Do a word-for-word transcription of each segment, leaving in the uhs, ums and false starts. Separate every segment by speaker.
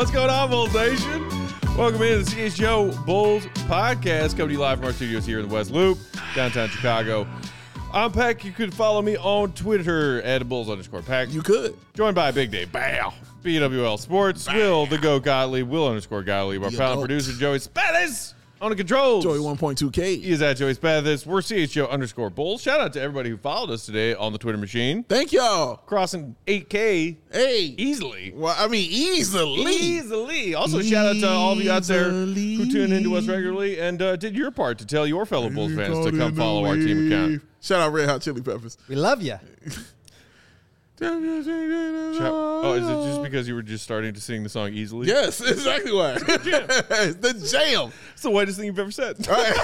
Speaker 1: What's going on, Bulls Nation? Welcome into the C H G O Bulls podcast, coming to you live from our studios here in the West Loop, downtown Chicago. I'm Peck. You could follow me on Twitter at Bulls underscore Peck.
Speaker 2: You could.
Speaker 1: Joined by Big Day Bow, B W L Sports, Bow. Will the Go Gottlieb, Will underscore Gottlieb, our panel producer Joey Spathis on the controls.
Speaker 2: Joey one point two K.
Speaker 1: He is at Joey Spathis. We're C H G O underscore Bulls. Shout out to everybody who followed us today on the Twitter machine.
Speaker 2: Thank y'all.
Speaker 1: Crossing eight K.
Speaker 2: Hey.
Speaker 1: Easily.
Speaker 2: Well, I mean, easily.
Speaker 1: Easily. Also, easily. Shout out to all of you out there who tune into us regularly and uh, did your part to tell your fellow Bulls fans to come follow our team account.
Speaker 2: Shout out Red Hot Chili Peppers.
Speaker 3: We love you.
Speaker 1: Oh, is it just because you were just starting to sing the song easily?
Speaker 2: Yes, exactly why. It's the jam.
Speaker 1: It's the whitest thing you've ever said.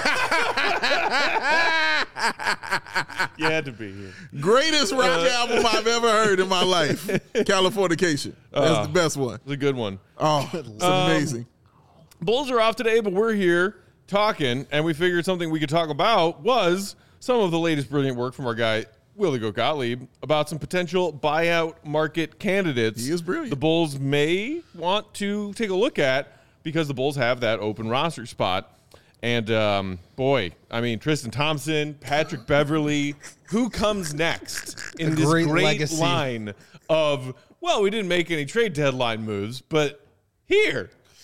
Speaker 1: You had to be here.
Speaker 2: Greatest rock uh, album I've ever heard in my life. Californication. That's uh, the best one.
Speaker 1: It's a good one.
Speaker 2: Oh, it's um, amazing.
Speaker 1: Bulls are off today, but we're here talking, and we figured something we could talk about was some of the latest brilliant work from our guy, Will the Go Gottlieb, about some potential buyout market candidates.
Speaker 2: He is brilliant.
Speaker 1: The Bulls may want to take a look at because the Bulls have that open roster spot. And, um, boy, I mean, Tristan Thompson, Patrick Beverley, who comes next in this great, great legacy line of, well, we didn't make any trade deadline moves, but here,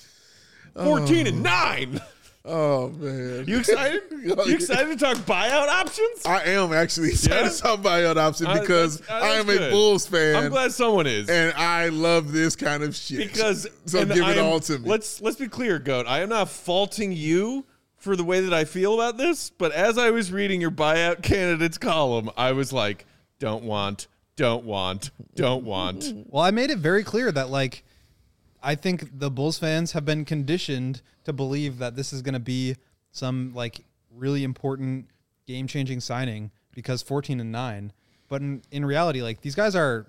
Speaker 1: fourteen and nine.
Speaker 2: Oh, man.
Speaker 1: You excited? You excited to talk buyout options?
Speaker 2: I am actually excited yeah? to talk buyout options because uh, I am good. a Bulls fan.
Speaker 1: I'm glad someone is.
Speaker 2: And I love this kind of shit.
Speaker 1: Because
Speaker 2: so give
Speaker 1: I
Speaker 2: it
Speaker 1: am,
Speaker 2: all to me.
Speaker 1: Let's, let's be clear, Goat. I am not faulting you for the way that I feel about this, but as I was reading your buyout candidates column, I was like, don't want, don't want, don't want.
Speaker 3: Well, I made it very clear that, like, I think the Bulls fans have been conditioned to believe that this is going to be some like really important game-changing signing because fourteen and nine. But in, in reality, like these guys are,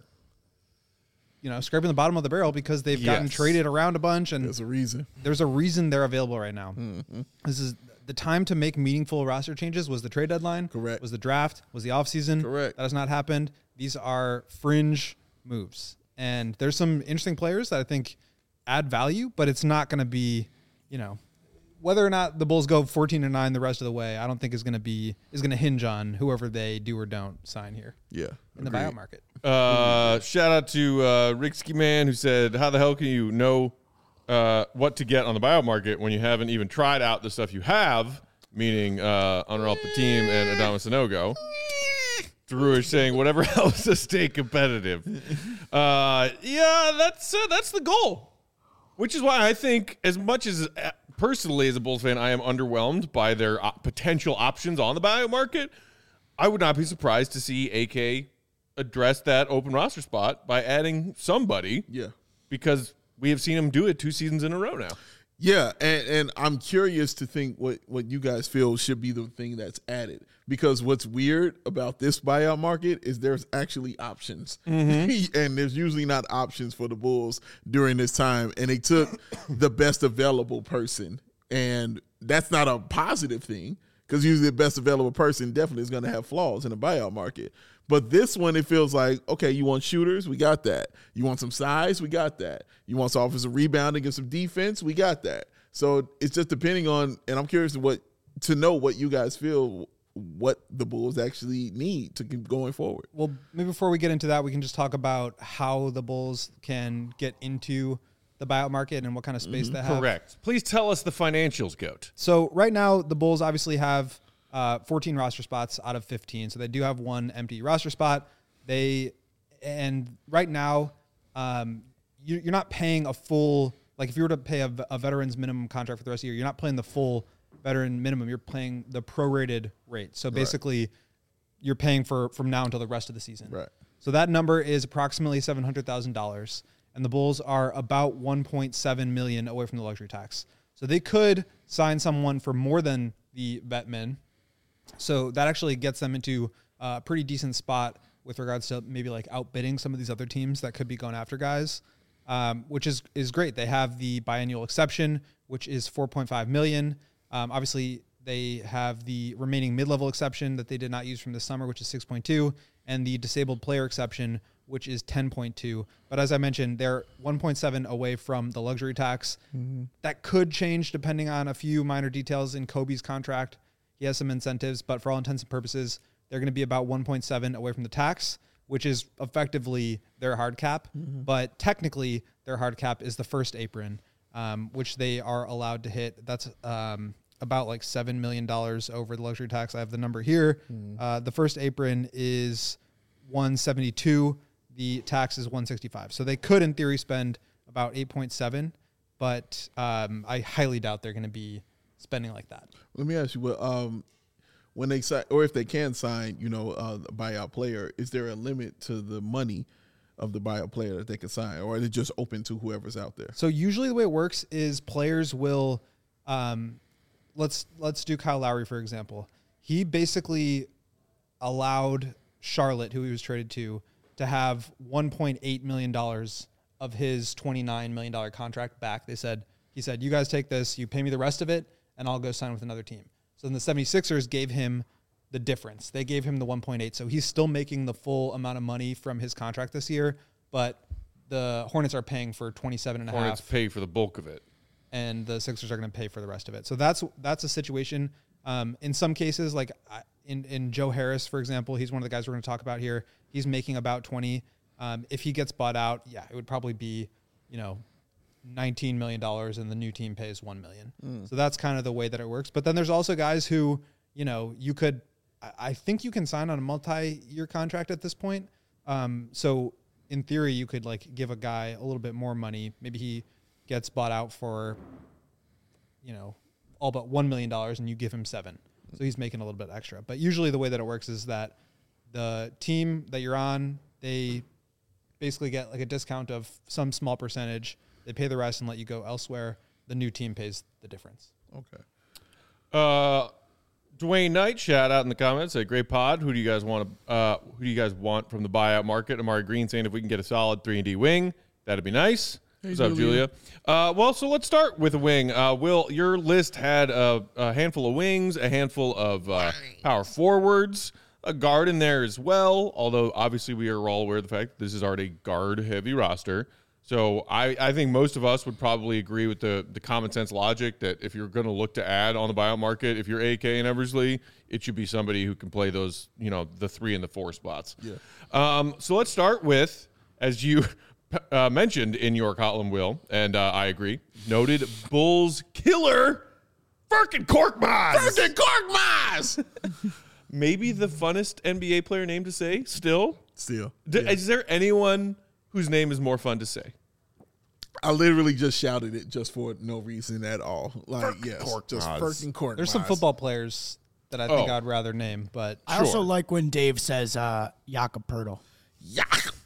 Speaker 3: you know, scraping the bottom of the barrel because they've yes. gotten traded around a bunch, and
Speaker 2: there's a reason.
Speaker 3: There's a reason they're available right now.
Speaker 2: Mm-hmm.
Speaker 3: This is the time to make meaningful roster changes. Was the trade deadline?
Speaker 2: Correct.
Speaker 3: Was the draft? Was the offseason?
Speaker 2: Correct.
Speaker 3: That has not happened. These are fringe moves, and there's some interesting players that I think add value, but it's not going to be, you know, whether or not the Bulls go fourteen and nine the rest of the way, I don't think is going to be is going to hinge on whoever they do or don't sign here.
Speaker 2: Yeah,
Speaker 3: in
Speaker 2: agreed.
Speaker 3: the buyout market.
Speaker 1: Uh, shout out to uh, Ricksky Man who said, "How the hell can you know uh, what to get on the buyout market when you haven't even tried out the stuff you have?" Meaning uh, Anwar El-Fatim and Adama Sanogo. Drewish saying, "Whatever helps us stay competitive." Uh, yeah, that's uh, that's the goal. Which is why I think, as much as uh, personally as a Bulls fan, I am underwhelmed by their uh, potential options on the buyout market. I would not be surprised to see A K address that open roster spot by adding somebody.
Speaker 2: Yeah,
Speaker 1: because we have seen him do it two seasons in a row now.
Speaker 2: Yeah, and, and I'm curious to think what, what you guys feel should be the thing that's added. Because what's weird about this buyout market is there's actually options.
Speaker 1: Mm-hmm.
Speaker 2: And there's usually not options for the Bulls during this time. And they took the best available person. And that's not a positive thing because usually the best available person definitely is going to have flaws in the buyout market. But this one, it feels like, okay, you want shooters? We got that. You want some size? We got that. You want some offensive rebounding and some defense? We got that. So it's just depending on, and I'm curious to what to know what you guys feel, what the Bulls actually need to keep going forward.
Speaker 3: Well, maybe before we get into that, we can just talk about how the Bulls can get into the buyout market and what kind of space
Speaker 2: mm-hmm.
Speaker 3: they have.
Speaker 1: Correct. Please tell us the financials, Goat.
Speaker 3: So right now, the Bulls obviously have Uh, fourteen roster spots out of fifteen. So they do have one empty roster spot. They, and right now, um, you, you're not paying a full, like if you were to pay a, a veteran's minimum contract for the rest of the year, you're not paying the full veteran minimum. You're paying the prorated rate. So basically right. you're paying for from now until the rest of the season.
Speaker 2: Right.
Speaker 3: So that number is approximately seven hundred thousand dollars. And the Bulls are about one point seven million dollars away from the luxury tax. So they could sign someone for more than the vet min. So that actually gets them into a pretty decent spot with regards to maybe like outbidding some of these other teams that could be going after guys, um, which is is great. They have the biannual exception, which is four point five million dollars. Um, obviously, they have the remaining mid-level exception that they did not use from this summer, which is six point two, and the disabled player exception, which is ten point two. But as I mentioned, they're one point seven away from the luxury tax. Mm-hmm. That could change depending on a few minor details in Kobe's contract. He has some incentives, but for all intents and purposes, they're going to be about one point seven away from the tax, which is effectively their hard cap. Mm-hmm. But technically, their hard cap is the first apron, um, which they are allowed to hit. That's um, about like seven million dollars over the luxury tax. I have the number here. Mm-hmm. Uh, the first apron is one seventy-two. The tax is one sixty-five. So they could, in theory, spend about eight point seven, but um, I highly doubt they're going to be spending like that.
Speaker 2: Let me ask you, what um, when they sign, or if they can sign, you know, uh, a buyout player, is there a limit to the money of the buyout player that they can sign, or is it just open to whoever's out there?
Speaker 3: So usually the way it works is players will, um, let's let's do Kyle Lowry, for example. He basically allowed Charlotte, who he was traded to, to have one point eight million dollars of his twenty-nine million dollars contract back. They said, he said, you guys take this, you pay me the rest of it, and I'll go sign with another team. So then the seventy-sixers gave him the difference. They gave him the one point eight. So he's still making the full amount of money from his contract this year, but the Hornets are paying for twenty-seven and a half.
Speaker 1: Hornets pay for the bulk of it.
Speaker 3: And the Sixers are going to pay for the rest of it. So that's that's a situation. Um, in some cases, like in, in Joe Harris, for example, he's one of the guys we're going to talk about here. He's making about twenty. Um, if he gets bought out, yeah, it would probably be, you know, nineteen million dollars and the new team pays one million dollars. Mm. So that's kind of the way that it works. But then there's also guys who, you know, you could, I think you can sign on a multi-year contract at this point. Um, so in theory, you could like give a guy a little bit more money. Maybe he gets bought out for, you know, all but one million dollars and you give him seven. So he's making a little bit extra. But usually the way that it works is that the team that you're on, they basically get like a discount of some small percentage. They pay the rest and let you go elsewhere. The new team pays the difference.
Speaker 2: Okay.
Speaker 1: Uh, Dwayne Knight, shout out in the comments. Said, great pod. Who do you guys want to? Uh, who do you guys want from the buyout market? Amari Green saying if we can get a solid three and D wing, that'd be nice.
Speaker 2: Hey,
Speaker 1: What's up, Julia? Uh, well, so let's start with a wing. Uh, Will, your list had a, a handful of wings, a handful of uh, power forwards, a guard in there as well. Although obviously we are all aware of the fact that this is already guard-heavy roster. So I, I think most of us would probably agree with the, the common sense logic that if you're going to look to add on the buyout market, if you're A K and Eversley, it should be somebody who can play those, you know, the three and the four spots.
Speaker 2: Yeah. Um,
Speaker 1: so let's start with, as you uh, mentioned in your column, Will, and uh, I agree, noted Bulls killer, Furkan Korkmaz.
Speaker 2: Furkan Korkmaz!
Speaker 1: Maybe the funnest N B A player name to say still.
Speaker 2: Still.
Speaker 1: D-
Speaker 2: yeah.
Speaker 1: Is there anyone whose name is more fun to say?
Speaker 2: I literally just shouted it just for no reason at all. Like,
Speaker 1: Furkan
Speaker 2: yes,
Speaker 1: Korkmaz.
Speaker 2: just Furkan Korkmaz.
Speaker 3: There's some football players that I think
Speaker 1: Oh.
Speaker 3: I'd rather name, but
Speaker 4: I also like when Dave says uh, Jakob Poeltl.
Speaker 2: Yeah.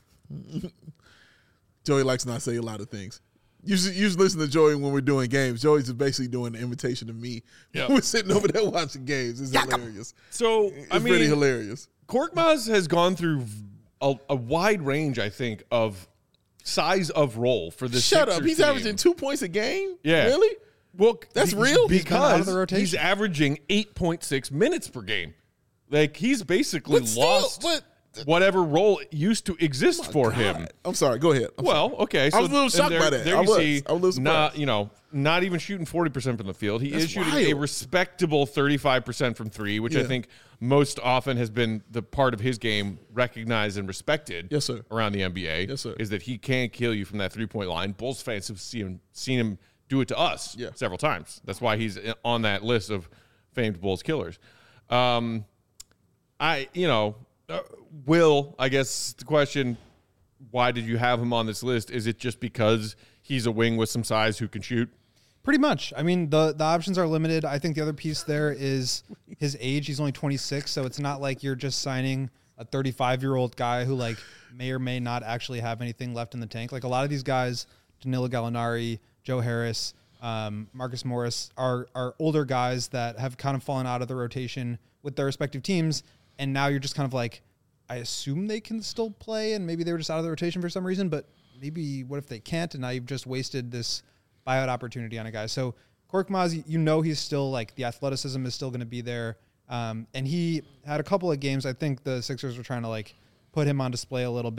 Speaker 2: Joey likes to not say a lot of things. You should, you should listen to Joey when we're doing games. Joey's just basically doing an invitation to me.
Speaker 1: Yep.
Speaker 2: We're sitting over there watching games. It's hilarious.
Speaker 1: So,
Speaker 2: It's
Speaker 1: I mean,
Speaker 2: pretty hilarious.
Speaker 1: Korkmaz has gone through a, a wide range, I think, of size of role for this.
Speaker 2: Shut up.
Speaker 1: Sixers
Speaker 2: He's
Speaker 1: team.
Speaker 2: averaging two points a game?
Speaker 1: Yeah.
Speaker 2: Really?
Speaker 1: Well,
Speaker 2: That's
Speaker 1: be-
Speaker 2: real?
Speaker 3: He's been out of
Speaker 1: because
Speaker 3: the rotation.
Speaker 1: he's averaging eight point six minutes per game. Like, he's basically
Speaker 2: But still,
Speaker 1: lost
Speaker 2: but-
Speaker 1: whatever role used to exist for him.
Speaker 2: God. I'm sorry. Go ahead. I'm
Speaker 1: Well,
Speaker 2: sorry.
Speaker 1: okay. So
Speaker 2: I was a little
Speaker 1: and
Speaker 2: shocked
Speaker 1: there,
Speaker 2: by that.
Speaker 1: There
Speaker 2: I
Speaker 1: you
Speaker 2: was.
Speaker 1: see,
Speaker 2: I was a little
Speaker 1: not
Speaker 2: surprised.
Speaker 1: you know, not even shooting forty percent from the field. He
Speaker 2: That's
Speaker 1: is shooting a
Speaker 2: wild.
Speaker 1: respectable thirty-five percent from three, which I
Speaker 2: Yeah.
Speaker 1: think most often has been the part of his game recognized and respected.
Speaker 2: Yes, sir.
Speaker 1: Around the N B A,
Speaker 2: Yes, sir.
Speaker 1: is that he can kill you from that three-point line. Bulls fans have seen him, seen him do it to us
Speaker 2: Yeah.
Speaker 1: several times. That's why he's on that list of famed Bulls killers. Um, I, you know, uh, Will, I guess the question, why did you have him on this list? Is it just because he's a wing with some size who can shoot?
Speaker 3: pretty much. I mean, the, the options are limited. I think the other piece there is his age. He's only twenty-six, so it's not like you're just signing a thirty-five-year-old guy who, like, may or may not actually have anything left in the tank. Like, a lot of these guys, Danilo Gallinari, Joe Harris, um, Marcus Morris, are are older guys that have kind of fallen out of the rotation with their respective teams, and now you're just kind of like, I assume they can still play, and maybe they were just out of the rotation for some reason, but maybe what if they can't, and now you've just wasted this buyout opportunity on a guy. So Korkmaz, you know he's still, like, the athleticism is still going to be there, um, and he had a couple of games. I think the Sixers were trying to, like, put him on display a little bit.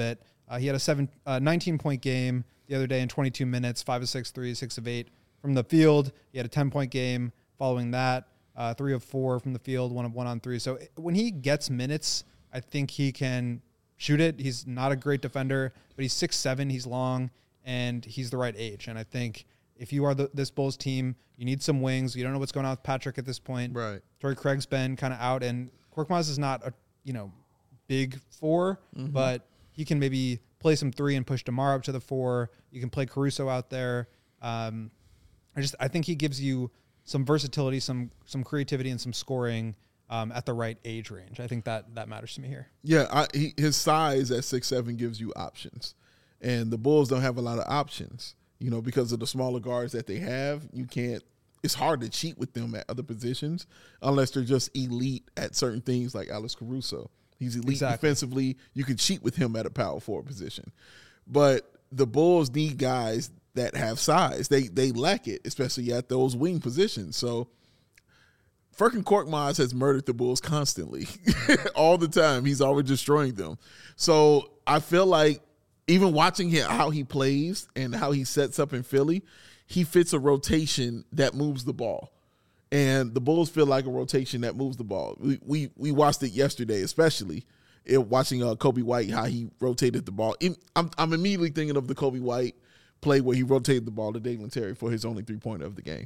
Speaker 3: Uh, he had a seven, uh, nineteen-point game the other day in twenty-two minutes, five of six threes, six of eight from the field. He had a ten-point game following that, uh, three of four from the field, one of one on three. So when he gets minutes, I think he can shoot it. He's not a great defender, but he's six seven, he's long, and he's the right age. And I think if you are the, this Bulls team, you need some wings. You don't know what's going on with Patrick at this point.
Speaker 2: Right.
Speaker 3: Torrey Craig's been kind of out, and Korkmaz is not a, you know, big four, mm-hmm. but he can maybe play some three and push DeMar up to the four. You can play Caruso out there. Um, I just I think he gives you some versatility, some some creativity, and some scoring um, at the right age range. I think that that matters to me here.
Speaker 2: Yeah, I, he, his size at six seven gives you options, and the Bulls don't have a lot of options. You know, because of the smaller guards that they have, you can't. It's hard to cheat with them at other positions unless they're just elite at certain things, like Alex Caruso. He's elite
Speaker 3: exactly.
Speaker 2: defensively. You can cheat with him at a power forward position, but the Bulls need guys that have size. They they lack it, especially at those wing positions. So Furkan Korkmaz has murdered the Bulls constantly, all the time. He's always destroying them. So I feel like even watching him, how he plays and how he sets up in Philly, he fits a rotation that moves the ball. And the Bulls feel like a rotation that moves the ball. We we, we watched it yesterday, especially it, watching uh, Kobe White, how he rotated the ball. I'm, I'm immediately thinking of the Kobe White play where he rotated the ball to Dalen Terry for his only three-pointer of the game.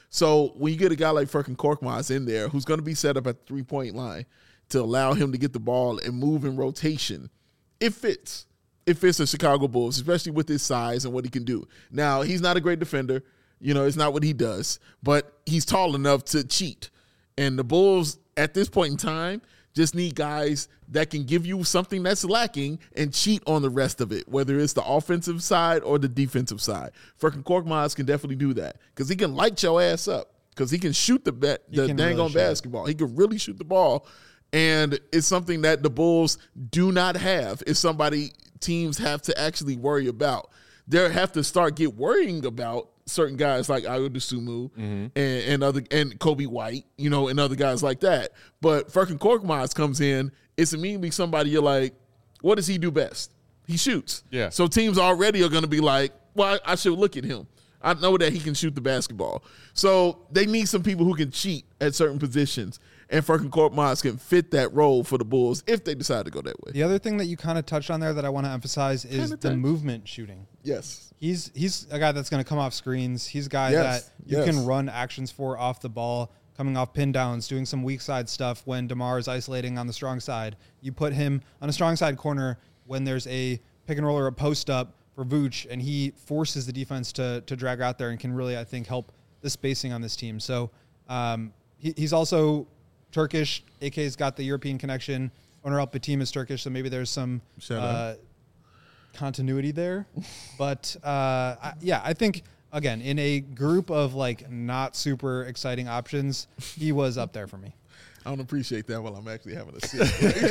Speaker 2: So when you get a guy like Furkan Korkmaz in there who's going to be set up at the three-point line to allow him to get the ball and move in rotation, it fits. It fits the Chicago Bulls, especially with his size and what he can do. Now, he's not a great defender. You know, it's not what he does. But he's tall enough to cheat. And the Bulls, at this point in time, just need guys that can give you something that's lacking and cheat on the rest of it, whether it's the offensive side or the defensive side. Furkan Korkmaz can definitely do that because he can light your ass up because he can shoot the, ba- the dang really on basketball. He can really shoot the ball. And it's something that the Bulls do not have if somebody teams have to actually worry about. They have to start get worrying about certain guys like Ayo Dosunmu mm-hmm. and, and other and Kobe White, you know, and other guys like that. But Furkan Korkmaz comes in, it's immediately somebody you're like, what does he do best? He shoots.
Speaker 1: Yeah.
Speaker 2: So teams already are going to be like, well, I, I should look at him. I know that he can shoot the basketball. So they need some people who can cheat at certain positions. And Furkan Korkmaz can fit that role for the Bulls if they decide to go that way.
Speaker 3: The other thing that you kind of touched on there that I want to emphasize is
Speaker 2: Kinda
Speaker 3: the
Speaker 2: touch.
Speaker 3: movement shooting.
Speaker 2: Yes.
Speaker 3: He's he's a guy that's going to come off screens. He's a guy
Speaker 2: Yes,
Speaker 3: that you
Speaker 2: yes.
Speaker 3: can run actions for off the ball, coming off pin downs, doing some weak side stuff when DeMar is isolating on the strong side. You put him on a strong side corner when there's a pick and roll or a post up for Vooch, and he forces the defense to to drag out there and can really, I think, help the spacing on this team. So um, he, he's also Turkish. A K's got the European connection. Onur Alpatiem is Turkish, so maybe there's some uh, continuity there. But uh, I, yeah, I think again in a group of like not super exciting options, he was up there for me.
Speaker 2: I don't appreciate that while I'm actually having a sip.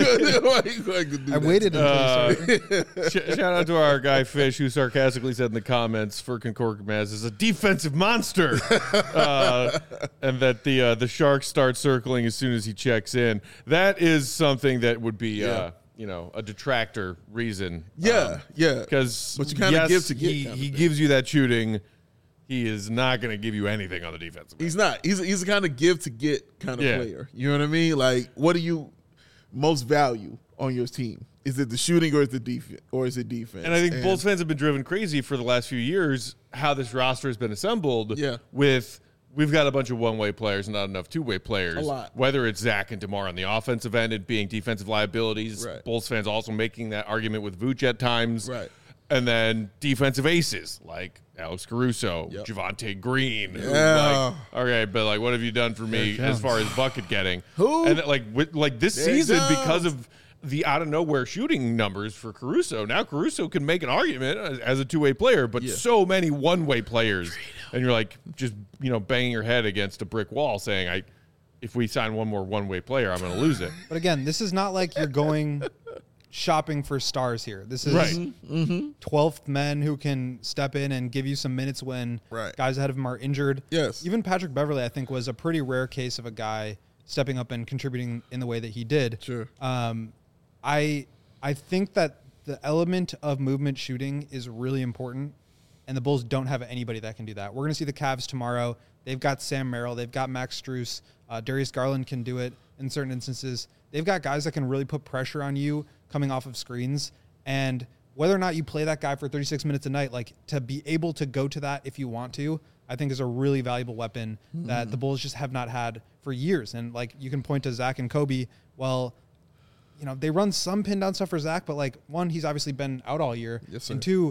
Speaker 3: I waited until
Speaker 1: Uh,
Speaker 3: you started.
Speaker 1: Sh- shout out to our guy Fish, who sarcastically said in the comments, Furkan Korkmaz is a defensive monster, uh, and that the uh, the Sharks start circling as soon as he checks in. That is something that would be,
Speaker 2: Yeah.
Speaker 1: uh, you know, a detractor reason.
Speaker 2: Yeah, yeah.
Speaker 1: Because
Speaker 2: But you kinda
Speaker 1: yes,
Speaker 2: give to get
Speaker 1: He,
Speaker 2: kind of
Speaker 1: he
Speaker 2: thing.
Speaker 1: gives you that shooting. He is not going to give you anything on the defensive end.
Speaker 2: He's not. He's he's a kind of give to get kind of
Speaker 1: Yeah.
Speaker 2: player. You know what I mean? Like, what do you most value on your team? Is it the shooting or is it defense? Or is it defense?
Speaker 1: And I think Bulls fans have been driven crazy for the last few years how this roster has been assembled.
Speaker 2: Yeah.
Speaker 1: With we've got a bunch of one-way players and not enough two-way players.
Speaker 2: A lot.
Speaker 1: Whether it's Zach and DeMar on the offensive end and being defensive liabilities.
Speaker 2: Right.
Speaker 1: Bulls fans also making that argument with Vooch at times.
Speaker 2: Right.
Speaker 1: And then defensive aces like Alex Caruso,
Speaker 2: Yep.
Speaker 1: Javonte Green. Who,
Speaker 2: Yeah.
Speaker 1: like, okay, but like, what have you done for me as far as bucket getting?
Speaker 2: Who?
Speaker 1: And like, with, like this
Speaker 2: Derek
Speaker 1: season,
Speaker 2: Jones.
Speaker 1: because of the out of nowhere shooting numbers for Caruso, now Caruso can make an argument as, as a two way player, but
Speaker 2: Yeah.
Speaker 1: so many one way players, and you're like just you know banging your head against a brick wall, saying, "I, if we sign one more one way player, I'm going to lose it."
Speaker 3: But again, this is not like you're going shopping for stars here. This is
Speaker 1: Right.
Speaker 3: twelfth men who can step in and give you some minutes when
Speaker 2: Right.
Speaker 3: guys ahead of him are injured.
Speaker 2: Yes.
Speaker 3: Even Patrick Beverley, I think, was a pretty rare case of a guy stepping up and contributing in the way that he did.
Speaker 2: Sure.
Speaker 3: Um, I I think that the element of movement shooting is really important, and the Bulls don't have anybody that can do that. We're going to see the Cavs tomorrow. They've got Sam Merrill. They've got Max Strus. Uh, Darius Garland can do it in certain instances. They've got guys that can really put pressure on you coming off of screens, and whether or not you play that guy for thirty-six minutes a night, like to be able to go to that if you want to, I think is a really valuable weapon mm. that the Bulls just have not had for years. And like you can point to Zach and Kobe. Well, you know, they run some pin down stuff for Zach, but like one, he's obviously been out all year.
Speaker 2: Yes, sir.
Speaker 3: And two,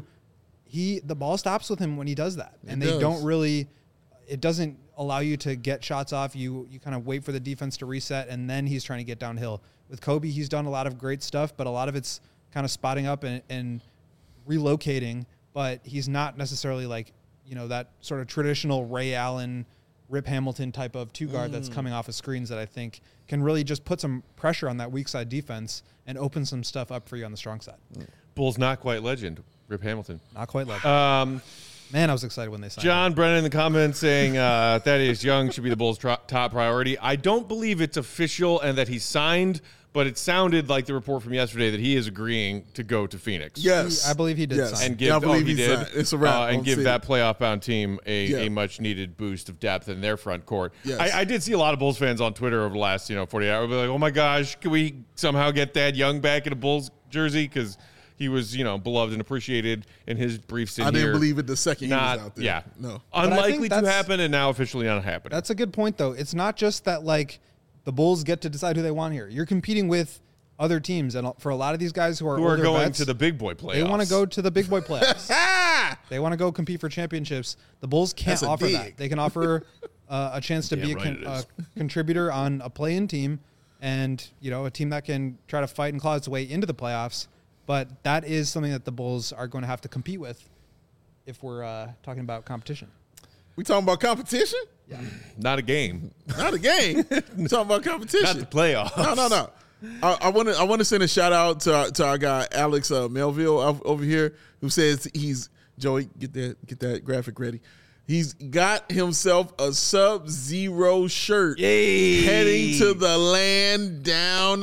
Speaker 3: he the ball stops with him when he does that.
Speaker 2: It
Speaker 3: and they
Speaker 2: does.
Speaker 3: don't really it doesn't allow you to get shots off. You you kind of wait for the defense to reset, and then he's trying to get downhill. With Kobe, he's done a lot of great stuff, but a lot of it's kind of spotting up and, and relocating, but he's not necessarily like, you know, that sort of traditional Ray Allen, Rip Hamilton type of two guard mm. that's coming off of screens that I think can really just put some pressure on that weak side defense and open some stuff up for you on the strong side.
Speaker 1: Bulls not quite legend, Rip Hamilton.
Speaker 3: Not quite legend.
Speaker 1: Um,
Speaker 3: Man, I was excited when they signed
Speaker 1: John
Speaker 3: him.
Speaker 1: Brennan in the comments saying uh, Thaddeus Young should be the Bulls' tro- top priority. I don't believe it's official and that he's signed, but it sounded like the report from yesterday that he is agreeing to go to Phoenix.
Speaker 2: Yes.
Speaker 3: He, I believe he did
Speaker 2: Yes.
Speaker 3: sign.
Speaker 1: And give,
Speaker 2: Yeah, I
Speaker 1: oh,
Speaker 2: believe
Speaker 1: he
Speaker 2: he
Speaker 1: did.
Speaker 2: signed. It's a wrap.
Speaker 1: Uh, and
Speaker 2: Don't
Speaker 1: give
Speaker 2: see
Speaker 1: that
Speaker 2: it.
Speaker 1: playoff bound team a,
Speaker 2: Yeah.
Speaker 1: a much needed boost of depth in their front court.
Speaker 2: Yes.
Speaker 1: I, I did see a lot of Bulls fans on Twitter over the last, you know, forty-eight hours be like, "Oh my gosh, can we somehow get Thad Young back in a Bulls jersey?" Because he was, you know, beloved and appreciated in his brief stint
Speaker 2: I didn't
Speaker 1: here.
Speaker 2: believe it the second
Speaker 1: Not,
Speaker 2: he was out there.
Speaker 1: yeah,
Speaker 2: No.
Speaker 3: I think
Speaker 1: unlikely to
Speaker 3: that's-
Speaker 1: happen, and now officially not happening.
Speaker 3: That's a good point, though. It's not just that, like, the Bulls get to decide who they want here. You're competing with other teams, and for a lot of these guys who are
Speaker 1: who are
Speaker 3: older
Speaker 1: going
Speaker 3: vets,
Speaker 1: to the big boy playoffs.
Speaker 3: they want to go to the big boy playoffs.
Speaker 2: Ah!
Speaker 3: They want to go compete for championships. The Bulls can't
Speaker 2: That's a
Speaker 3: offer
Speaker 2: dig.
Speaker 3: that. They can offer uh, a chance to
Speaker 1: Damn
Speaker 3: be a,
Speaker 1: right
Speaker 3: con-
Speaker 1: it
Speaker 3: a
Speaker 1: is.
Speaker 3: contributor on a play-in team, and you know, a team that can try to fight and claw its way into the playoffs. But that is something that the Bulls are going to have to compete with if we're uh, talking about competition.
Speaker 2: We talking about competition?
Speaker 3: Yeah.
Speaker 1: Not a game,
Speaker 2: Not a game. We talking about competition.
Speaker 1: not the playoffs.
Speaker 2: No, no, no. I want to. I want to send a shout out to our, to our guy Alex uh, Melville ov- over here, who says he's Joey. Get that. Get that graphic ready. He's got himself a Sub-Zero shirt.
Speaker 1: Yay!
Speaker 2: Heading to the land down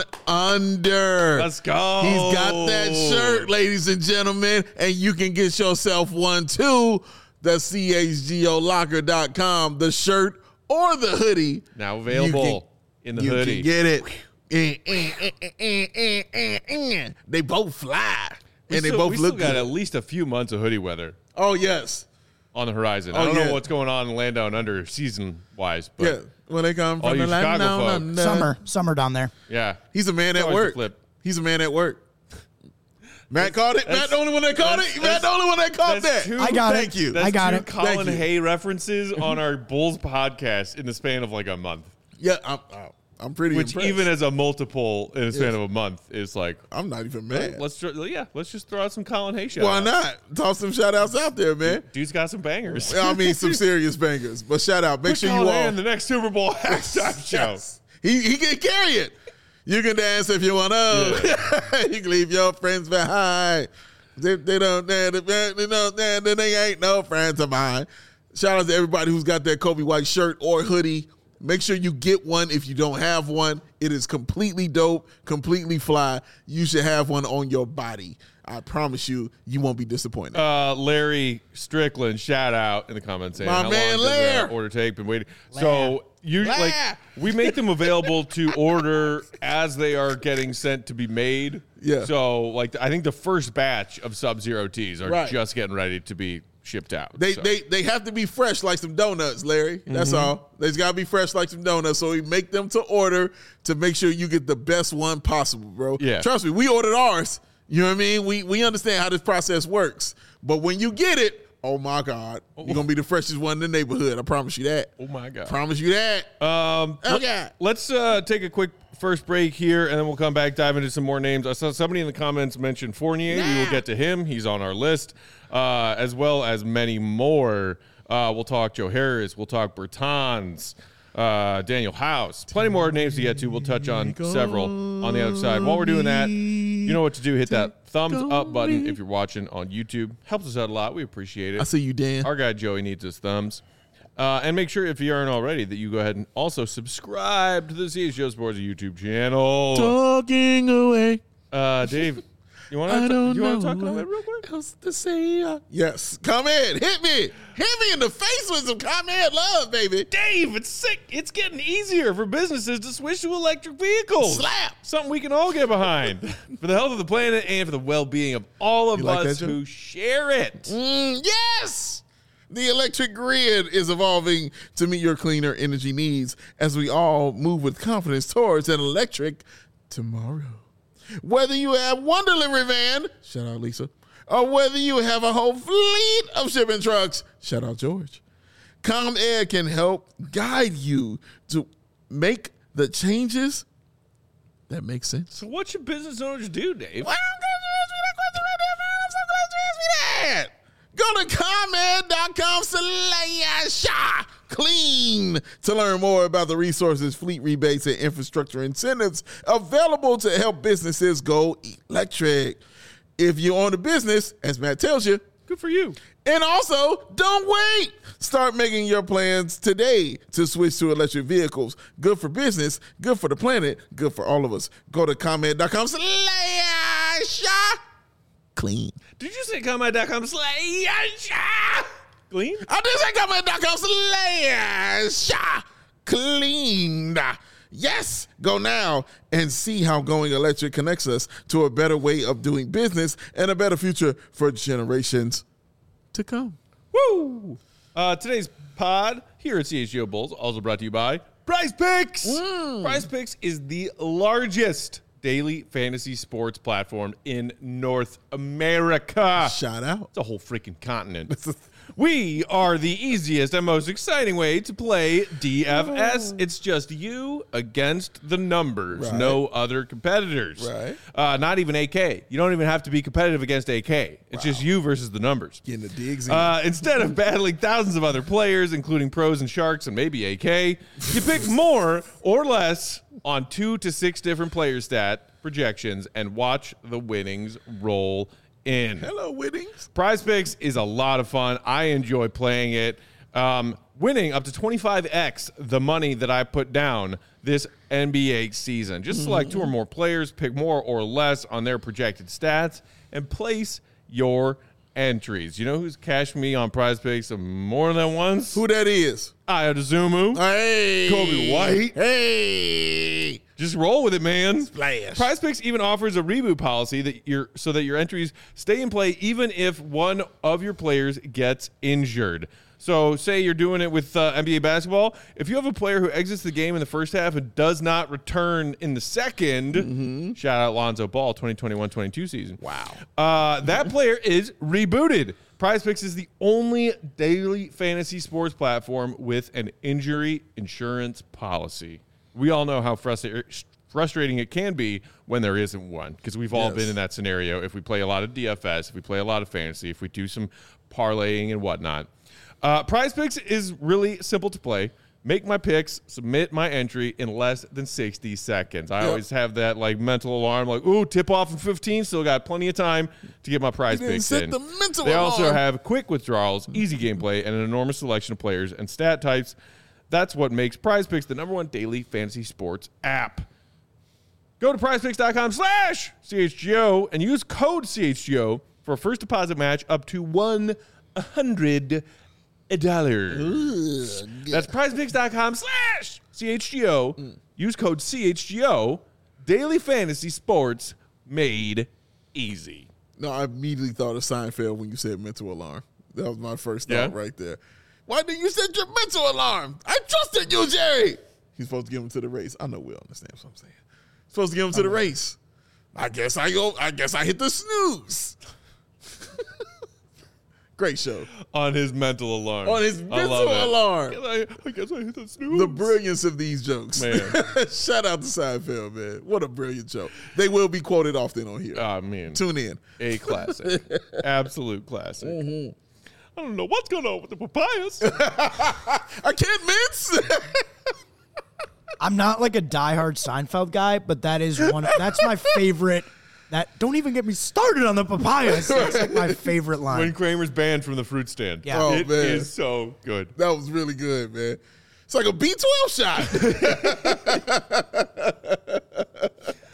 Speaker 2: under.
Speaker 1: Let's go.
Speaker 2: He's got that shirt, ladies and gentlemen, and you can get yourself one too. The C H G O locker dot com, the shirt or the hoodie.
Speaker 1: Now available
Speaker 2: You can-
Speaker 1: in the
Speaker 2: you
Speaker 1: hoodie.
Speaker 2: can get it. Eh, eh, eh, eh, eh, eh, eh, eh. They both fly,
Speaker 1: We
Speaker 2: and
Speaker 1: still,
Speaker 2: they both
Speaker 1: we
Speaker 2: look
Speaker 1: still got
Speaker 2: good.
Speaker 1: at least a few months of hoodie weather
Speaker 2: Oh yes,
Speaker 1: on the horizon.
Speaker 2: Oh,
Speaker 1: I don't
Speaker 2: yeah.
Speaker 1: know what's going on in Land Down Under season wise, but
Speaker 2: yeah. When they come
Speaker 1: All
Speaker 2: from
Speaker 1: you
Speaker 2: the land
Speaker 1: Chicago
Speaker 2: down
Speaker 1: folk.
Speaker 2: under.
Speaker 4: Summer, summer down there.
Speaker 1: yeah.
Speaker 2: He's a man
Speaker 1: It's
Speaker 2: at
Speaker 1: always the
Speaker 2: work.
Speaker 1: flip.
Speaker 2: He's a man at work. Matt called it. Matt
Speaker 1: that's-
Speaker 2: the only one that called
Speaker 1: that's-
Speaker 2: it. Matt the only one that called
Speaker 1: that's
Speaker 2: that.
Speaker 1: two-
Speaker 4: I got
Speaker 2: Thank
Speaker 4: it.
Speaker 2: you.
Speaker 1: That's
Speaker 4: I got
Speaker 1: two
Speaker 4: it.
Speaker 1: Colin
Speaker 2: Thank you.
Speaker 1: Hay references on our Bulls podcast in the span of like a month,
Speaker 2: Yeah, I'm. I'm pretty
Speaker 1: which
Speaker 2: impressed.
Speaker 1: even as a multiple in a span
Speaker 2: Yes.
Speaker 1: of a month is like,
Speaker 2: I'm not even mad.
Speaker 1: let's tr- yeah, let's just throw out some Colin Hay shout
Speaker 2: Why
Speaker 1: outs.
Speaker 2: not? Toss some shout outs out there, man.
Speaker 1: Dude's got some bangers.
Speaker 2: I mean, some serious bangers. But shout out. Make
Speaker 1: Put
Speaker 2: sure you
Speaker 1: Colin Hay
Speaker 2: all.
Speaker 1: in the next Super Bowl halftime show.
Speaker 2: Yes. He he can carry it. You can dance if you want to. You can leave your friends behind. They, they don't. They, they, they, don't- they, they ain't no friends of mine. Shout out to everybody who's got that Kobe White shirt or hoodie. Make sure you get one if you don't have one. It is completely dope, completely fly. You should have one on your body. I promise you, you won't be disappointed.
Speaker 1: Uh, Larry Strickland, shout out in the comments saying,
Speaker 2: My
Speaker 1: how
Speaker 2: man,
Speaker 1: long does
Speaker 2: Lair.
Speaker 1: that order take? Been waiting. So you
Speaker 2: Lair.
Speaker 1: like we make them available to order as they are getting sent to be made.
Speaker 2: Yeah.
Speaker 1: So like I think the first batch of Sub-Zero tees are
Speaker 2: Right.
Speaker 1: just getting ready to be shipped out.
Speaker 2: They,
Speaker 1: So,
Speaker 2: they they have to be fresh like some donuts, Larry. That's
Speaker 1: Mm-hmm.
Speaker 2: all. They've got to be fresh like some donuts. So we make them to order to make sure you get the best one possible, bro.
Speaker 1: Yeah.
Speaker 2: Trust me, we ordered ours. You know what I mean? We we understand how this process works. But when you get it, oh my God, you're gonna be the freshest one in the neighborhood. I promise you that.
Speaker 1: oh my god.
Speaker 2: Promise you that.
Speaker 1: Um,
Speaker 2: Oh,
Speaker 1: let-
Speaker 2: yeah.
Speaker 1: Let's uh, take a quick first break here, and then we'll come back, dive into some more names. I saw somebody in the comments mention Fournier. We will get to him. He's on our list, uh, as well as many more. Uh, we'll talk Joe Harris. We'll talk Bertans, uh, Daniel House. Plenty more names to get to. We'll touch on several on the other side. While we're doing that, you know what to do. Hit that thumbs up button if you're watching on YouTube. Helps us out a lot. We appreciate it.
Speaker 2: I see you, Dan.
Speaker 1: Our guy Joey needs his thumbs. Uh, and make sure, if you aren't already, that you go ahead and also subscribe to the C H G O Sports YouTube channel.
Speaker 2: Talking away.
Speaker 1: Uh, Dave, You want
Speaker 2: I
Speaker 1: to
Speaker 2: don't
Speaker 1: you want
Speaker 2: know
Speaker 1: to talk
Speaker 2: what
Speaker 1: comment real quick?
Speaker 2: else to say. Uh, yes, comment, hit me, hit me in the face with some comment love, baby.
Speaker 1: Dave, it's sick. It's getting easier for businesses to switch to electric vehicles.
Speaker 2: Slap.
Speaker 1: Something we can all get behind for the health of the planet and for the well-being of all of
Speaker 2: You like
Speaker 1: us
Speaker 2: that, Joe?
Speaker 1: who share it.
Speaker 2: Mm, yes. The electric grid is evolving to meet your cleaner energy needs as we all move with confidence towards an electric tomorrow. Whether you have one delivery van, shout out Lisa, or whether you have a whole fleet of shipping trucks, shout out George, ComAir can help guide you to make the changes that make sense.
Speaker 1: So what should business owners do, Dave?
Speaker 2: Why don't you ask me that question right there, man? I'm so glad you asked me that. Go to ComAir.com slash clean to learn more about the resources, fleet rebates, and infrastructure incentives available to help businesses go electric. If you own a business, as Matt tells you,
Speaker 1: Good for you.
Speaker 2: and also, don't wait. Start making your plans today to switch to electric vehicles. Good for business, good for the planet, good for all of us. Go to ComAir.com slash clean.
Speaker 1: Did you say comment.com slash clean?
Speaker 2: I did say ComAir.com slash clean. Yes, go now and see how going electric connects us to a better way of doing business and a better future for generations to come.
Speaker 1: Woo! Uh, today's pod here at C H G O Bulls, also brought to you by Prize Picks.
Speaker 2: Mm.
Speaker 1: Prize Picks is the largest daily fantasy sports platform in North America.
Speaker 2: Shout out.
Speaker 1: It's a whole freaking continent. We are the easiest and most exciting way to play D F S. It's just you against the numbers.
Speaker 2: Right.
Speaker 1: No other competitors.
Speaker 2: Right.
Speaker 1: Uh, not even A K. You don't even have to be competitive against A K. It's just you versus the numbers.
Speaker 2: Getting the digs in.
Speaker 1: Uh, instead of battling thousands of other players, including pros and sharks and maybe A K, you pick more or less on two to six different player stat projections and watch the winnings roll in.
Speaker 2: Hello, Winnings.
Speaker 1: Prize Picks is a lot of fun. I enjoy playing it. Um, winning up to twenty-five x the money that I put down this N B A season. Just select two or more players, pick more or less on their projected stats, and place your entries. You know who's cashed me on Prize Picks more than once?
Speaker 2: Who that is?
Speaker 1: Ayadozumu.
Speaker 2: Hey.
Speaker 1: Kobe White.
Speaker 2: Hey.
Speaker 1: Just roll with it, man.
Speaker 2: Splash.
Speaker 1: Prize Picks even offers a reboot policy that you're so that your entries stay in play even if one of your players gets injured. So say you're doing it with uh, N B A basketball. If you have a player who exits the game in the first half and does not return in the second, mm-hmm. shout out Lonzo Ball, twenty twenty-one twenty-two season.
Speaker 2: Wow.
Speaker 1: Uh, that player is rebooted. Prize Picks is the only daily fantasy sports platform with an injury insurance policy. We all know how frustra- frustrating it can be when there isn't one, because we've all
Speaker 2: Yes.
Speaker 1: been in that scenario. If we play a lot of D F S, if we play a lot of fantasy, if we do some parlaying and whatnot. Uh, Prize Picks is really simple to play. Make my picks, submit my entry in less than sixty seconds. I
Speaker 2: Yep.
Speaker 1: always have that like mental alarm, like, ooh, tip off in fifteen, still got plenty of time to get my prize
Speaker 2: You didn't
Speaker 1: picks
Speaker 2: set
Speaker 1: in.
Speaker 2: the mental
Speaker 1: They also
Speaker 2: alarm.
Speaker 1: have quick withdrawals, easy gameplay, and an enormous selection of players and stat types. That's what makes Prize Picks the number one daily fantasy sports app. Go to prizepicks.com slash CHGO and use code C H G O for a first deposit match up to one hundred dollars. That's prizepicks.com slash CHGO. Use code C H G O. Daily fantasy sports made easy.
Speaker 2: No, I immediately thought of Seinfeld when you said mental alarm. That was my first thought
Speaker 1: Yeah?
Speaker 2: right there. Why didn't you set your mental alarm? I trusted you, Jerry. He's supposed to give him to the race. I know Will understands what I'm saying. Supposed to give him to the race. I guess I go. I guess I hit the snooze. Great show.
Speaker 1: On his mental alarm.
Speaker 2: On his
Speaker 1: I
Speaker 2: mental
Speaker 1: love it.
Speaker 2: alarm.
Speaker 1: I, I guess I hit the snooze.
Speaker 2: The brilliance of these jokes.
Speaker 1: Man.
Speaker 2: Shout out to Seinfeld, man. What a brilliant show. They will be quoted often on here.
Speaker 1: Oh, man.
Speaker 2: Tune in.
Speaker 1: A classic. Absolute classic.
Speaker 2: Mm-hmm.
Speaker 1: I don't know what's going on with the papayas.
Speaker 2: I can't mince.
Speaker 4: I'm not like a diehard Seinfeld guy, but that is one. That's my favorite. That don't even get me started on the papayas. That's like my favorite line.
Speaker 1: When Kramer's banned from the fruit stand.
Speaker 4: Yeah.
Speaker 2: Oh,
Speaker 1: It
Speaker 2: man.
Speaker 1: is so good.
Speaker 2: That was really good, man. It's like a B twelve shot.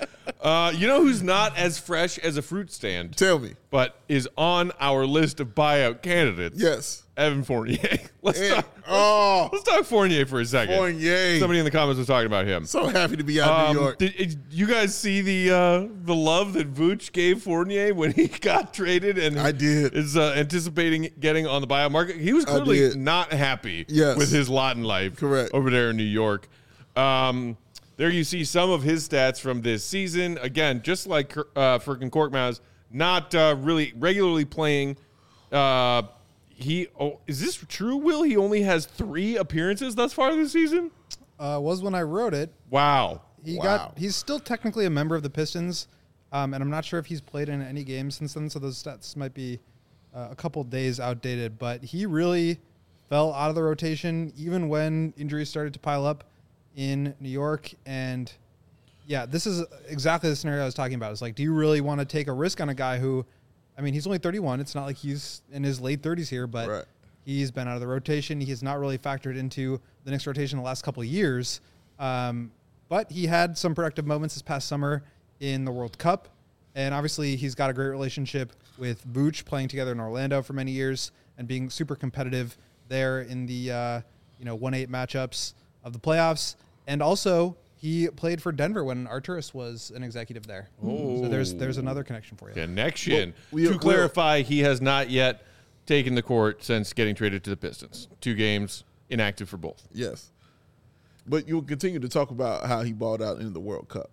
Speaker 1: Uh, you know who's not as fresh as a fruit stand,
Speaker 2: Tell me.
Speaker 1: but is on our list of buyout candidates?
Speaker 2: Yes.
Speaker 1: Evan Fournier. Let's
Speaker 2: And-
Speaker 1: talk.
Speaker 2: oh,
Speaker 1: Let's talk Fournier for a second.
Speaker 2: Fournier.
Speaker 1: Somebody in the comments was talking about him.
Speaker 2: So happy to be out in
Speaker 1: Um,
Speaker 2: New York.
Speaker 1: Did, did you guys see the uh, the love that Vooch gave Fournier when he got traded and
Speaker 2: I did.
Speaker 1: is uh, anticipating getting on the buyout market? He was
Speaker 2: I
Speaker 1: clearly
Speaker 2: did.
Speaker 1: not happy
Speaker 2: Yes.
Speaker 1: with his lot in life
Speaker 2: Correct.
Speaker 1: over there in New York. Um, there you see some of his stats from this season. Again, just like uh, freaking Korkmaz, not uh, really regularly playing. Uh, he oh, is this true, Will? He only has three appearances thus far this season?
Speaker 3: Uh, was when I wrote it.
Speaker 1: Wow.
Speaker 3: He
Speaker 2: Wow.
Speaker 3: got. He's still technically a member of the Pistons, um, and I'm not sure if he's played in any games since then. So those stats might be uh, a couple days outdated. But he really fell out of the rotation even when injuries started to pile up in New York. And yeah, this is exactly the scenario I was talking about. It's like, do you really want to take a risk on a guy who, I mean, he's only thirty-one. It's not like he's in his late thirties here, but
Speaker 2: Right.
Speaker 3: he's been out of the rotation. He has not really factored into the Knicks rotation the last couple of years. Um, but he had some productive moments this past summer in the World Cup. And obviously he's got a great relationship with Vooch, playing together in Orlando for many years and being super competitive there in the uh, you know one eight matchups of the playoffs. And also he played for Denver when Arturis was an executive there. So there's there's another connection for you.
Speaker 1: Connection.
Speaker 2: Well, we-
Speaker 1: to clarify, he has not yet taken the court since getting traded to the Pistons. Two games, inactive for both.
Speaker 2: Yes. But you'll continue to talk about how he balled out in the World Cup.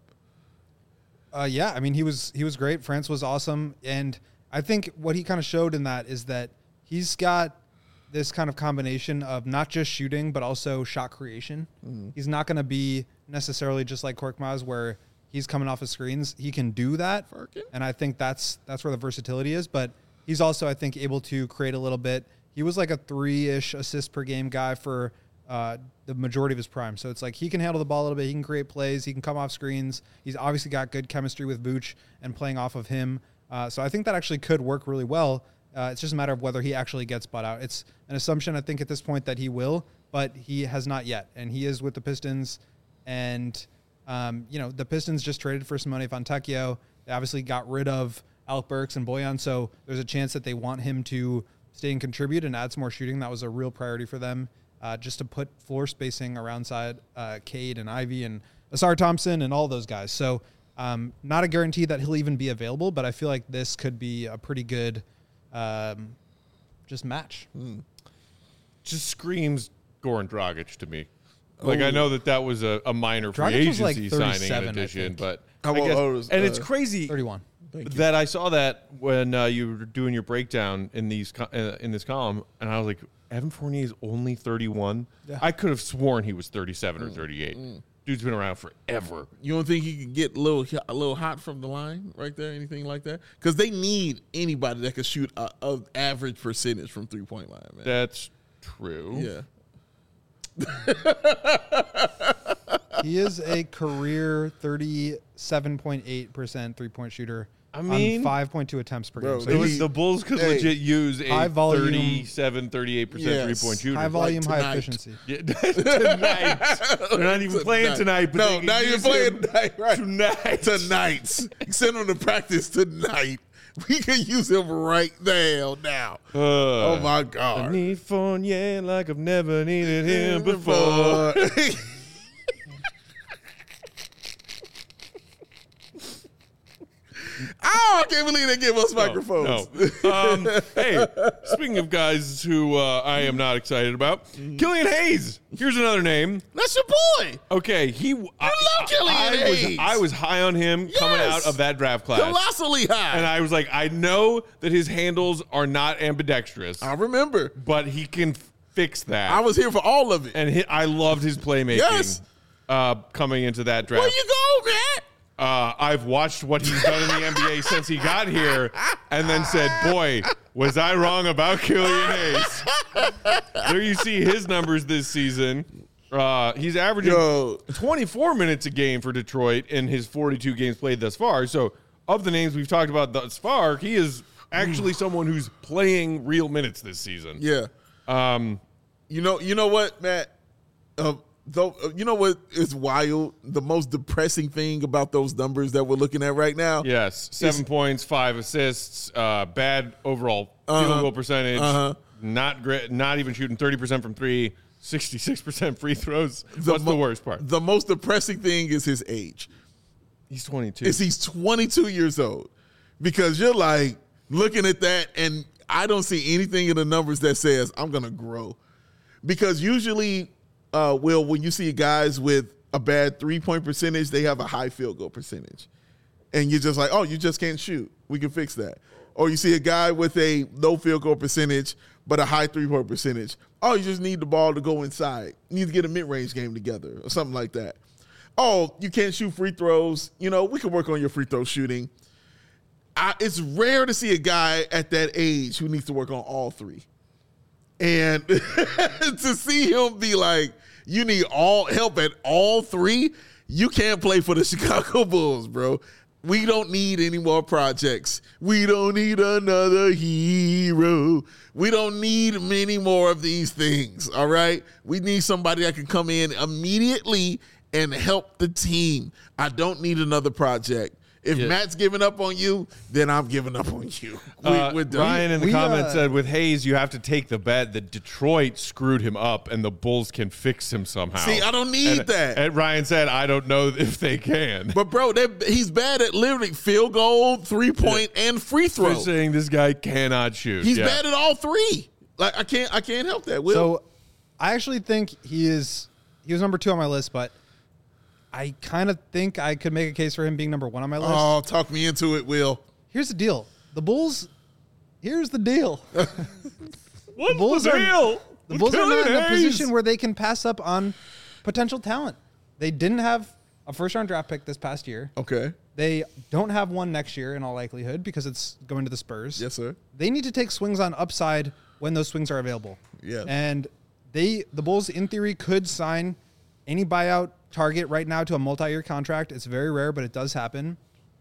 Speaker 3: Uh, yeah, I mean, he was he was great. France was awesome, and I think what he kind of showed in that is that he's got this kind of combination of not just shooting but also shot creation. Mm-hmm. He's not going to be necessarily just like Korkmaz, where he's coming off of screens. He can do that,
Speaker 2: Firkin?
Speaker 3: and I think that's that's where the versatility is. But he's also, I think, able to create a little bit. He was like a three-ish assist per game guy for uh, the majority of his prime. So it's like he can handle the ball a little bit. He can create plays. He can come off screens. He's obviously got good chemistry with Vooch and playing off of him. Uh, so I think that actually could work really well. Uh, it's just a matter of whether he actually gets bought out. It's an assumption, I think, at this point that he will, but he has not yet. And he is with the Pistons. And, um, you know, the Pistons just traded for Simone Fontecchio. They obviously got rid of Alec Burks and Bojan. So there's a chance that they want him to stay and contribute and add some more shooting. That was a real priority for them, uh, just to put floor spacing around side uh, Cade and Ivy and Asar Thompson and all those guys. So um, not a guarantee that he'll even be available, but I feel like this could be a pretty good um, just match.
Speaker 2: Mm.
Speaker 1: Just screams Goran Dragic to me. Like, I
Speaker 2: Oh.
Speaker 1: know that that was a, a minor free
Speaker 3: Dragic was
Speaker 1: agency
Speaker 3: like
Speaker 1: signing in
Speaker 3: thirty-seven, I
Speaker 1: addition,
Speaker 3: think.
Speaker 1: but
Speaker 2: How
Speaker 1: I
Speaker 2: about
Speaker 1: guess-
Speaker 2: Otis,
Speaker 1: and it's
Speaker 2: uh,
Speaker 1: crazy
Speaker 3: thirty-one.
Speaker 2: Thank you.
Speaker 1: that I saw that when uh, you were doing your breakdown in these co- uh, in this column, and I was like, Evan Fournier is only thirty-one.
Speaker 3: Yeah.
Speaker 1: I could have sworn he was thirty-seven
Speaker 2: Mm,
Speaker 1: or thirty-eight. Dude's been around forever.
Speaker 2: You don't think he could get a little a little hot from the line right there, anything like that? Because they need anybody that can shoot a, a average percentage from three point line, man.
Speaker 1: That's true.
Speaker 2: yeah.
Speaker 3: He is a career thirty-seven point eight percent three-point shooter.
Speaker 1: I mean-
Speaker 3: on five point two attempts per
Speaker 2: Bro,
Speaker 3: game. So
Speaker 1: It
Speaker 2: Hey,
Speaker 1: was, the Bulls could
Speaker 2: hey,
Speaker 1: legit use a
Speaker 3: high volume-
Speaker 1: thirty-seven, thirty-eight percent
Speaker 2: Yes.
Speaker 1: three-point shooter.
Speaker 3: high volume, high
Speaker 2: tonight.
Speaker 3: efficiency.
Speaker 1: Yeah, tonight. They're not even playing tonight. But
Speaker 2: no,
Speaker 1: they can
Speaker 2: not even
Speaker 1: use
Speaker 2: playing
Speaker 1: him
Speaker 2: tonight. Right.
Speaker 1: Tonight.
Speaker 2: Tonight. Send him to practice tonight. We can use him right now. Now.
Speaker 1: Uh,
Speaker 2: Oh my
Speaker 1: I
Speaker 2: God.
Speaker 1: need Fournier like I've never needed him before.
Speaker 2: Oh, I can't believe they give us microphones.
Speaker 1: No. Um, hey, speaking of guys who uh, I am not excited about, Killian Hayes. Here's another name.
Speaker 2: That's your boy.
Speaker 1: Okay, he. I
Speaker 2: love Killian
Speaker 1: I,
Speaker 2: Hayes.
Speaker 1: Was, I was high on him coming
Speaker 2: Yes.
Speaker 1: out of that draft class,
Speaker 2: Colossally high.
Speaker 1: and I was like, I know that his handles are not ambidextrous,
Speaker 2: I remember.
Speaker 1: but he can f- fix that.
Speaker 2: I was here for all of it.
Speaker 1: and he, I loved his playmaking.
Speaker 2: Yes.
Speaker 1: Uh, coming into that draft.
Speaker 2: Where you go, man?
Speaker 1: Uh, I've watched what he's done in the N B A since he got here, and then said, "Boy, was I wrong about Killian Hayes?" There you see his numbers this season. Uh, he's averaging
Speaker 2: Yo.
Speaker 1: twenty-four minutes a game for Detroit in his forty-two games played thus far. So, of the names we've talked about thus far, he is actually someone who's playing real minutes this season.
Speaker 2: Yeah.
Speaker 1: Um,
Speaker 2: You know, you know what, Matt? Uh, Though, you know what is wild? The most depressing thing about those numbers that we're looking at right now.
Speaker 1: Yes, seven
Speaker 2: is,
Speaker 1: points, five assists, uh, bad overall
Speaker 2: uh-huh,
Speaker 1: field goal percentage.
Speaker 2: Uh-huh.
Speaker 1: Not great. Not even shooting thirty percent from three. sixty-six percent free throws.
Speaker 2: The
Speaker 1: What's
Speaker 2: mo-
Speaker 1: the worst part?
Speaker 2: The most depressing thing is his age.
Speaker 1: He's twenty-two.
Speaker 2: Is he's twenty-two years old, because you're like looking at that, and I don't see anything in the numbers that says I'm gonna grow. Because usually, uh, Will, when you see guys with a bad three-point percentage, they have a high field goal percentage, and you're just like, oh, you just can't shoot. We can fix that. Or you see a guy with a low field goal percentage but a high three-point percentage. Oh, you just need the ball to go inside. You need to get a mid-range game together or something like that. Oh, you can't shoot free throws. You know, we can work on your free throw shooting. I, it's rare to see a guy at that age who needs to work on all three. And to see him be like, you need all help at all three, you can't play for the Chicago Bulls, bro. We don't need any more projects. We don't need another hero. We don't need many more of these things, all right? We need somebody that can come in immediately and help the team. I don't need another project. If
Speaker 1: Yeah.
Speaker 2: Matt's giving up on you, then I'm giving up on you. We,
Speaker 1: Uh,
Speaker 2: we're done.
Speaker 1: Ryan in the
Speaker 3: We,
Speaker 1: comments
Speaker 3: uh,
Speaker 1: said, with Hayes, you have to take the bet that Detroit screwed him up and the Bulls can fix him somehow.
Speaker 2: See, I don't need
Speaker 1: And-
Speaker 2: that.
Speaker 1: And Ryan said, I don't know if they can.
Speaker 2: But, bro, he's bad at literally field goal, three-point, and free throw.
Speaker 1: They're saying this guy cannot shoot.
Speaker 2: He's
Speaker 1: Yeah.
Speaker 2: bad at all three. Like, I can't I can't help that, Will.
Speaker 3: So I actually think he is he was number two on my list, but I kind of think I could make a case for him being number one on my list.
Speaker 2: Oh, talk me into it, Will.
Speaker 3: Here's the deal. The Bulls here's the deal.
Speaker 1: What's
Speaker 3: the Bulls
Speaker 1: the
Speaker 3: are
Speaker 1: deal?
Speaker 3: the Bulls are not in a
Speaker 1: Hayes.
Speaker 3: position where they can pass up on potential talent. They didn't have a first round draft pick this past year.
Speaker 2: Okay.
Speaker 3: They don't have one next year in all likelihood because it's going to the Spurs.
Speaker 2: Yes, sir.
Speaker 3: They need to take swings on upside when those swings are available.
Speaker 2: Yeah.
Speaker 3: And they the Bulls in theory could sign any buyout target right now to a multi-year contract. It's very rare, but it does happen.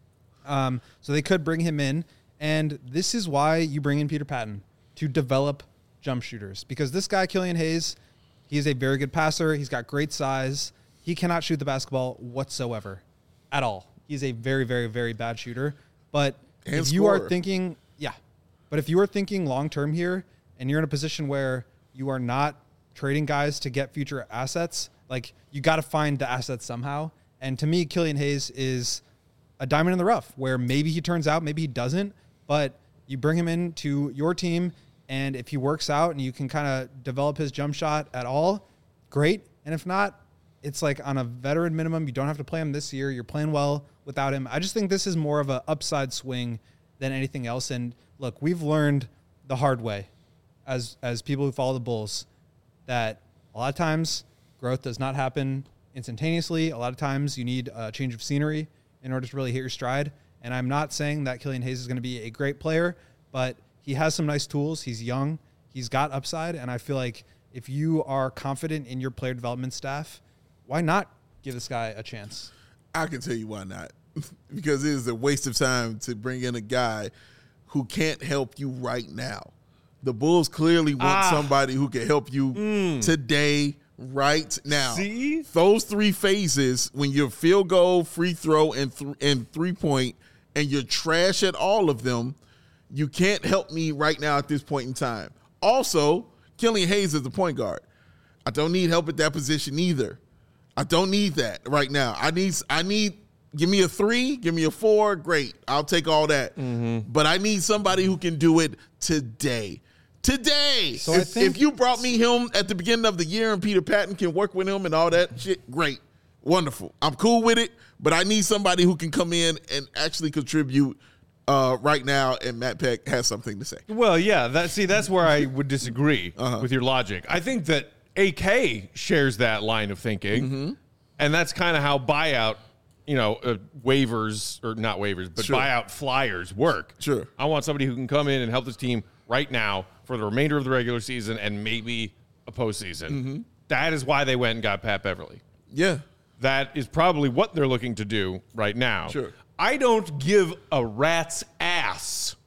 Speaker 3: Um, so they could bring him in. And this is why you bring in Peter Patton, to develop jump shooters. Because this guy, Killian Hayes, he's a very good passer. He's got great size. He cannot shoot the basketball whatsoever at all. He's a very, very, very bad shooter. But
Speaker 2: And
Speaker 3: if you are
Speaker 2: scorer.
Speaker 3: thinking, yeah, but if you are thinking long-term here and you're in a position where you are not trading guys to get future assets, like you got to find the assets somehow. And to me, Killian Hayes is a diamond in the rough where maybe he turns out, maybe he doesn't, but you bring him into your team, and if he works out and you can kind of develop his jump shot at all, great. And if not, it's like on a veteran minimum. You don't have to play him this year. You're playing well without him. I just think this is more of an upside swing than anything else. And look, we've learned the hard way as as people who follow the Bulls that a lot of times growth does not happen instantaneously. A lot of times you need a change of scenery in order to really hit your stride. And I'm not saying that Killian Hayes is going to be a great player, but he has some nice tools. He's young. He's got upside. And I feel like if you are confident in your player development staff, why not give this guy a chance?
Speaker 2: I can tell you why not. Because it is a waste of time to bring in a guy who can't help you right now. The Bulls clearly want
Speaker 1: Ah.
Speaker 2: somebody who can help you today, right now.
Speaker 1: See?
Speaker 2: Those three phases, when you're field goal, free throw, and th- and three-point, and you're trash at all of them, you can't help me right now at this point in time. Also, Killian Hayes is the point guard. I don't need help at that position either. I don't need that right now. I need, I need, give me a three, give me a four, great. I'll take all that. But I need somebody who can do it today. Today.
Speaker 3: So I
Speaker 2: if,
Speaker 3: think-
Speaker 2: if you brought me him at the beginning of the year and Peter Patton can work with him and all that shit, great. Wonderful. I'm cool with it, but I need somebody who can come in and actually contribute uh, right now, and Matt Peck has something to say.
Speaker 1: Well, yeah. That see, that's where I would disagree
Speaker 2: Uh-huh.
Speaker 1: with your logic. I think that A K shares that line of thinking,
Speaker 2: Mm-hmm.
Speaker 1: and that's kind of how buyout, you know, uh, waivers or not waivers, but
Speaker 2: Sure.
Speaker 1: buyout flyers work.
Speaker 2: Sure.
Speaker 1: I want somebody who can come in and help this team right now for the remainder of the regular season and maybe a postseason.
Speaker 2: Mm-hmm.
Speaker 1: That is why they went and got Pat Beverly.
Speaker 2: Yeah.
Speaker 1: That is probably what they're looking to do right now.
Speaker 2: Sure.
Speaker 1: I don't give a rat's ass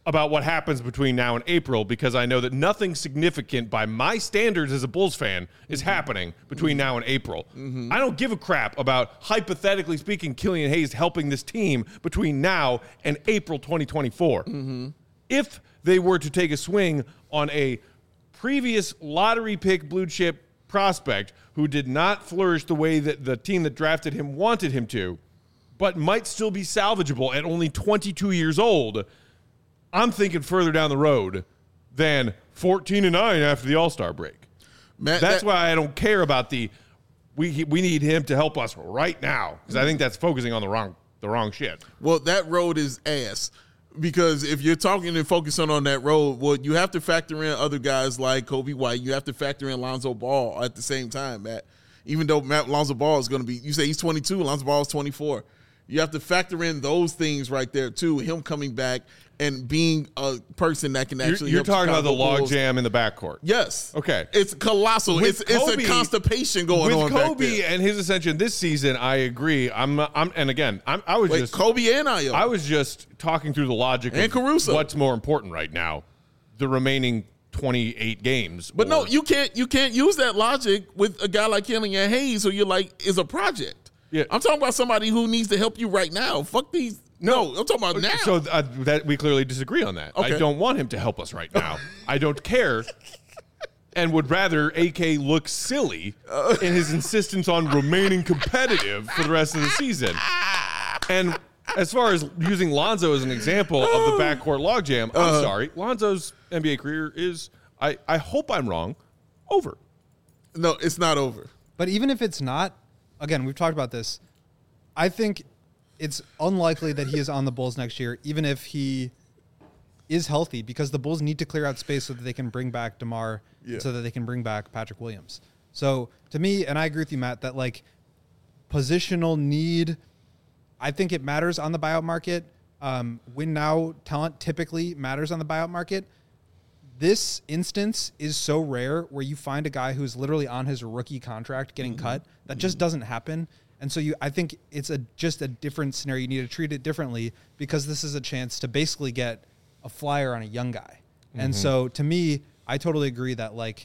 Speaker 1: about what happens between now and April because I know that nothing significant by my standards as a Bulls fan is mm-hmm. happening between mm-hmm. now and April. Mm-hmm. I don't give a crap about, hypothetically speaking, Killian Hayes helping this team between now and April twenty twenty-four. Mm-hmm. If they were to take a swing on a previous lottery pick blue chip prospect who did not flourish the way that the team that drafted him wanted him to, but might still be salvageable at only twenty-two years old, I'm thinking further down the road than fourteen and nine after the All-Star break. Matt, that's that, why I don't care about the we we need him to help us right now because I think that's focusing on the wrong the wrong shit.
Speaker 2: Well, that road is ass because if you're talking and focusing on that road, well, you have to factor in other guys like Kobe White. You have to factor in Lonzo Ball at the same time, Matt. Even though Matt Lonzo Ball is going to be, you say he's twenty-two, Lonzo Ball is twenty-four. You have to factor in those things right there too. Him coming back and being a person that can actually.
Speaker 1: You're, you're
Speaker 2: help
Speaker 1: talking
Speaker 2: Chicago
Speaker 1: about the
Speaker 2: Bulls.
Speaker 1: Logjam in the backcourt.
Speaker 2: Yes.
Speaker 1: Okay.
Speaker 2: It's colossal.
Speaker 1: With
Speaker 2: It's
Speaker 1: Kobe,
Speaker 2: it's a constipation going
Speaker 1: with
Speaker 2: on.
Speaker 1: Kobe
Speaker 2: back there.
Speaker 1: and his ascension this season, I agree. I'm. I'm. And again, I'm, I was
Speaker 2: Wait,
Speaker 1: just
Speaker 2: Kobe and Ayo.
Speaker 1: I was just talking through the logic
Speaker 2: And
Speaker 1: of
Speaker 2: Caruso.
Speaker 1: what's more important right now, the remaining twenty-eight games.
Speaker 2: But
Speaker 1: or,
Speaker 2: no, you can't. You can't use that logic with a guy like Killian Hayes, who you're like is a project.
Speaker 1: Yeah.
Speaker 2: I'm talking about somebody who needs to help you right now. Fuck these. No, I'm talking about now.
Speaker 1: So uh, that we clearly disagree on that.
Speaker 2: Okay.
Speaker 1: I don't want him to help us right now. I don't care, and would rather A K look silly in his insistence on remaining competitive for the rest of the season. And as far as using Lonzo as an example of the backcourt logjam, I'm
Speaker 2: Uh-huh.
Speaker 1: sorry, Lonzo's N B A career is. I, I hope I'm wrong. Over.
Speaker 2: No, it's not over.
Speaker 3: But even if it's not, again, we've talked about this. I think it's unlikely that he is on the Bulls next year, even if he is healthy, because the Bulls need to clear out space so that they can bring back DeMar,
Speaker 2: Yeah.
Speaker 3: so that they can bring back Patrick Williams. So to me, and I agree with you, Matt, that like positional need, I think it matters on the buyout market. Um, win now talent typically matters on the buyout market. This instance is so rare where you find a guy who's literally on his rookie contract getting mm-hmm. cut. That just doesn't happen. And so you, I think it's a just a different scenario. You need to treat it differently because this is a chance to basically get a flyer on a young guy. Mm-hmm. And so to me, I totally agree that like,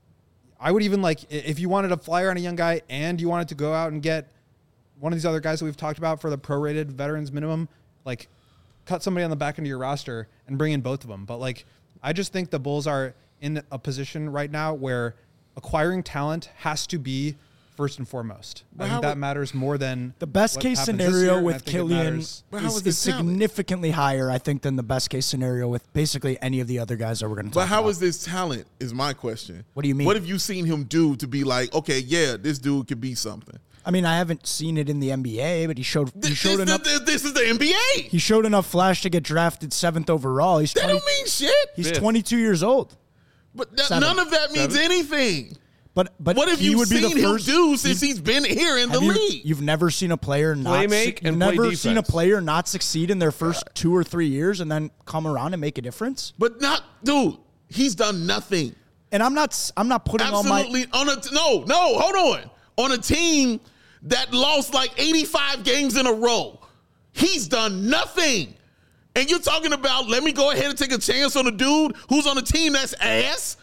Speaker 3: I would even like, if you wanted a flyer on a young guy and you wanted to go out and get one of these other guys that we've talked about for the prorated veterans minimum, like cut somebody on the back end of your roster and bring in both of them. But like, I just think the Bulls are in a position right now where acquiring talent has to be first and foremost.
Speaker 2: But
Speaker 3: I think
Speaker 2: how
Speaker 3: that
Speaker 2: would-
Speaker 3: matters more than
Speaker 4: The best
Speaker 3: what
Speaker 4: case
Speaker 3: happens this
Speaker 4: scenario
Speaker 3: year, and I
Speaker 4: with
Speaker 3: think it
Speaker 4: Killian
Speaker 3: matters-
Speaker 2: But how
Speaker 4: is,
Speaker 2: is
Speaker 4: is
Speaker 2: this talent?
Speaker 4: significantly higher, I think, than the best case scenario with basically any of the other guys that we're going to talk
Speaker 2: But how
Speaker 4: about.
Speaker 2: is this talent? Is my question.
Speaker 4: What do you mean?
Speaker 2: What have you seen him do to be like, okay, yeah, this dude could be something?
Speaker 4: I mean, I haven't seen it in the N B A, but he showed he
Speaker 2: This,
Speaker 4: showed
Speaker 2: this,
Speaker 4: enough.
Speaker 2: this, this is the N B A.
Speaker 4: He showed enough flash to get drafted seventh overall. He's
Speaker 2: That
Speaker 4: twenty,
Speaker 2: don't mean shit.
Speaker 4: he's
Speaker 1: Fifth.
Speaker 4: twenty-two years old.
Speaker 2: But that,
Speaker 4: Seven.
Speaker 2: none of that means
Speaker 1: Seven.
Speaker 2: anything.
Speaker 4: But but
Speaker 2: What have
Speaker 4: he
Speaker 2: you
Speaker 4: would
Speaker 2: seen
Speaker 4: be the
Speaker 2: him
Speaker 4: first,
Speaker 2: do since
Speaker 4: he's-
Speaker 2: he's been here in the
Speaker 4: have you,
Speaker 2: league?
Speaker 4: You've never seen a player not
Speaker 1: Play
Speaker 4: suc-
Speaker 1: make
Speaker 4: you've
Speaker 1: and play
Speaker 4: never seen a
Speaker 1: defense.
Speaker 4: player not succeed in their first two or three years and then come around and make a difference.
Speaker 2: But not, dude. He's done nothing.
Speaker 4: And I'm not s- I'm not putting all my
Speaker 2: Absolutely on a no, no. Hold on. On a team that lost like eighty-five games in a row, he's done nothing. And you're talking about let me go ahead and take a chance on a dude who's on a team that's ass?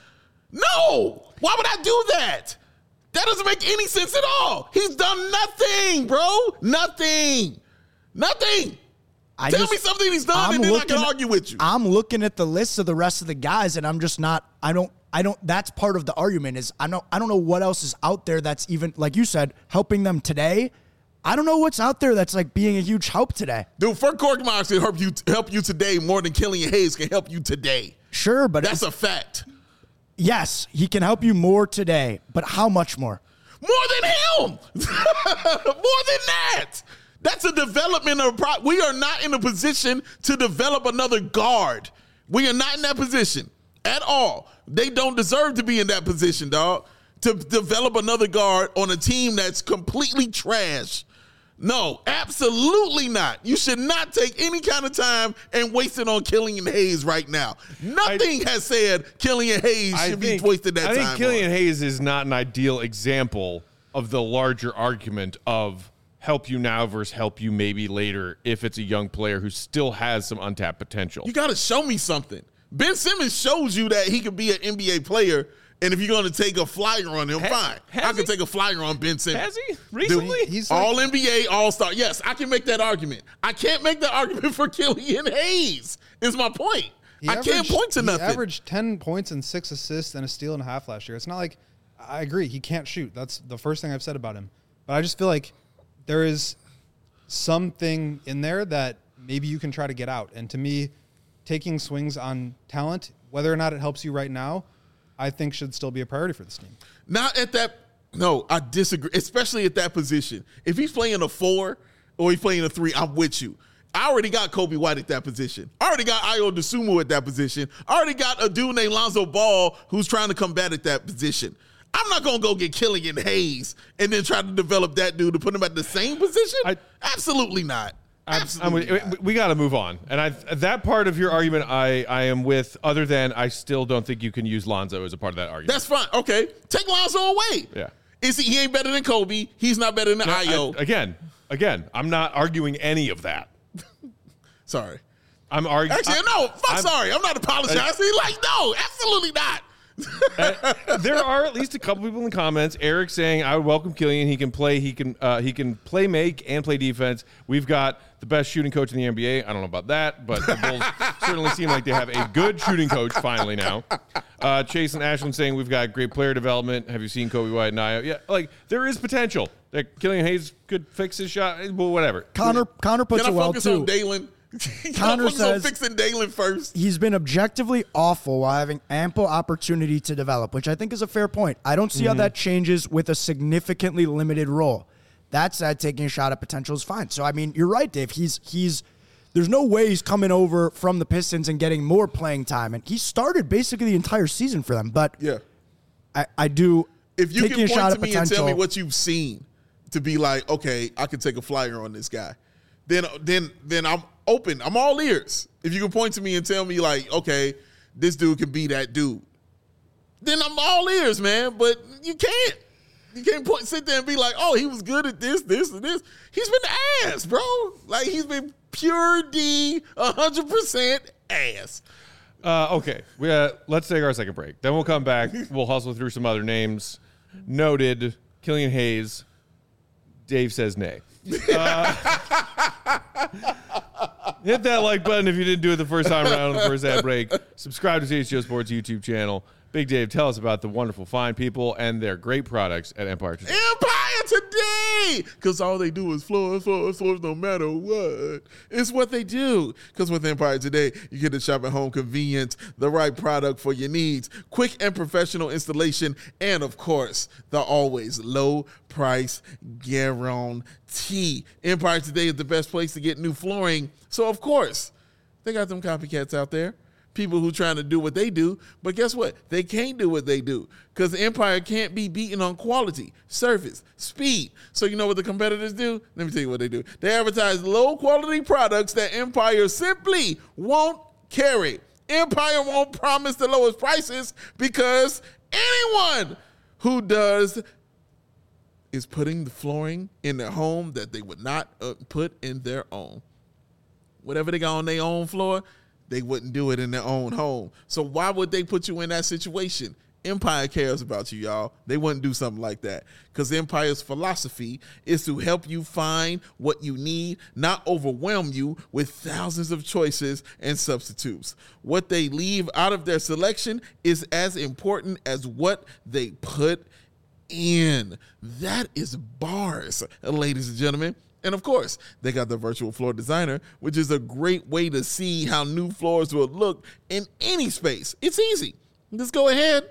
Speaker 2: No. Why would I do that? That doesn't make any sense at all. He's done nothing, bro. Nothing. Nothing.
Speaker 4: I
Speaker 2: Tell
Speaker 4: just-
Speaker 2: me something he's done,
Speaker 4: I'm
Speaker 2: and then I
Speaker 4: looking
Speaker 2: can
Speaker 4: at-
Speaker 2: argue with you.
Speaker 4: I'm looking at the list of the rest of the guys, and I'm just not. I don't. I don't. That's part of the argument. Is I don't. I don't know what else is out there that's even like you said helping them today. I don't know what's out there that's like being a huge help today.
Speaker 2: Dude, Frank Korkmaz can help you help you today more than Killian Hayes can help you today.
Speaker 4: Sure, but
Speaker 2: That's
Speaker 4: it's-
Speaker 2: a fact.
Speaker 4: yes, he can help you more today. But how much more?
Speaker 2: More than him. More than that. That's a development of pro- we are not in a position to develop another guard. We are not in that position at all. They don't deserve to be in that position, dog. To develop another guard on a team that's completely trash. No, absolutely not. You should not take any kind of time and waste it on Killian Hayes right now. Nothing has said Killian Hayes
Speaker 1: I
Speaker 2: should
Speaker 1: think,
Speaker 2: be wasted that
Speaker 1: I
Speaker 2: time.
Speaker 1: think Killian
Speaker 2: on.
Speaker 1: Hayes is not an ideal example of the larger argument of help you now versus help you maybe later if it's a young player who still has some untapped potential?
Speaker 2: You got to show me something. Ben Simmons shows you that he could be an N B A player, and if you're going to take a flyer on him,
Speaker 1: Has-
Speaker 2: fine.
Speaker 1: has
Speaker 2: I can
Speaker 1: he?
Speaker 2: take a flyer on Ben Simmons.
Speaker 1: Has he? Recently?
Speaker 2: The-
Speaker 3: He's like-
Speaker 2: all N B A, all-star. Yes, I can make that argument. I can't make that argument for Killian Hayes, is my point.
Speaker 3: He
Speaker 2: I can't
Speaker 3: averaged-
Speaker 2: point to nothing.
Speaker 3: He averaged ten points and six assists and a steal and a half last year. It's not like I agree he can't shoot. That's the first thing I've said about him. But I just feel like there is something in there that maybe you can try to get out. And to me, taking swings on talent, whether or not it helps you right now, I think should still be a priority for this team.
Speaker 2: Not at that. No, I disagree, especially at that position. If he's playing a four or he's playing a three, I'm with you. I already got Kobe White at that position. I already got Ayo Dosunmu at that position. I already got a dude named Lonzo Ball who's trying to combat at that position. I'm not going to go get Killian Hayes and then try to develop that dude to put him at the same position.
Speaker 1: I-
Speaker 2: Absolutely not.
Speaker 1: I'm-
Speaker 2: Absolutely
Speaker 1: I'm-
Speaker 2: not.
Speaker 1: we got to move on. And I that part of your argument I, I am with, other than I still don't think you can use Lonzo as a part of that argument.
Speaker 2: That's fine. Okay. Take Lonzo away.
Speaker 1: Yeah.
Speaker 2: Is he, he ain't better than Kobe. He's not better than
Speaker 1: I-
Speaker 2: Ayo.
Speaker 1: again, again, I'm not arguing any of that.
Speaker 2: Sorry.
Speaker 1: I'm arguing.
Speaker 2: Actually, no. I'm, sorry. I'm not apologizing. like, no, absolutely not.
Speaker 1: There are at least a couple people in the comments. Eric saying, "I would welcome Killian. He can play. He can. Uh, he can play make and play defense. We've got the best shooting coach in the N B A. I don't know about that, but the Bulls certainly seem like they have a good shooting coach finally now." Uh, Chase and Ashland saying, "We've got great player development. Have you seen Kobe White and Ayo? Yeah, like there is potential. Like Killian Hayes could fix his shot. Well, whatever.
Speaker 4: Connor Connor puts
Speaker 2: Can I
Speaker 4: it well
Speaker 2: focus
Speaker 4: too.
Speaker 2: on Dalen? Can
Speaker 4: Connor
Speaker 2: I focus
Speaker 4: says-
Speaker 2: on fixing Dalen first?
Speaker 4: He's been objectively awful while having ample opportunity to develop, which I think is a fair point. I don't see how that changes with a significantly limited role. That said, taking a shot at potential is fine. So I mean, you're right, Dave. He's he's there's no way he's coming over from the Pistons and getting more playing time, and he started basically the entire season for them. But
Speaker 2: Yeah.
Speaker 4: I, I do.
Speaker 2: If you
Speaker 4: taking
Speaker 2: can
Speaker 4: a shot
Speaker 2: point
Speaker 4: at
Speaker 2: to me and
Speaker 4: potential,
Speaker 2: tell me what you've seen to be like, okay, I can take a flyer on this guy, then then then I'm open. I'm all ears. If you can point to me and tell me like, okay, this dude can be that dude, then I'm all ears, man. But you can't. You can't point, sit there and be like, oh, he was good at this, this, and this. He's been ass, bro. Like, he's been pure D, one hundred percent ass.
Speaker 1: Uh, okay, we, uh, let's take our second break. Then we'll come back. We'll hustle through some other names. Noted, Killian Hayes. Dave says nay. Uh, hit that like button if you didn't do it the first time around on the first ad break. Subscribe to C H G O Sports YouTube channel. Big Dave, tell us about the wonderful, fine people and their great products at Empire Today.
Speaker 2: Empire Today! Because all they do is floors, floors, floors, no matter what. It's what they do. Because with Empire Today, you get to shop at home convenience, the right product for your needs, quick and professional installation, and of course, the always low price guarantee. Empire Today is the best place to get new flooring. So, of course, they got them copycats out there. People who trying to do what they do, but guess what? They can't do what they do because Empire can't be beaten on quality, service, speed. So you know what the competitors do? Let me tell you what they do. They advertise low-quality products that Empire simply won't carry. Empire won't promise the lowest prices because anyone who does is putting the flooring in their home that they would not uh, put in their own. Whatever they got on their own floor, they wouldn't do it in their own home. So why would they put you in that situation? Empire cares about you, y'all. They wouldn't do something like that because Empire's philosophy is to help you find what you need, not overwhelm you with thousands of choices and substitutes. What they leave out of their selection is as important as what they put in. That is bars, ladies and gentlemen. And of course, they got the virtual floor designer, which is a great way to see how new floors will look in any space. It's easy. Just go ahead,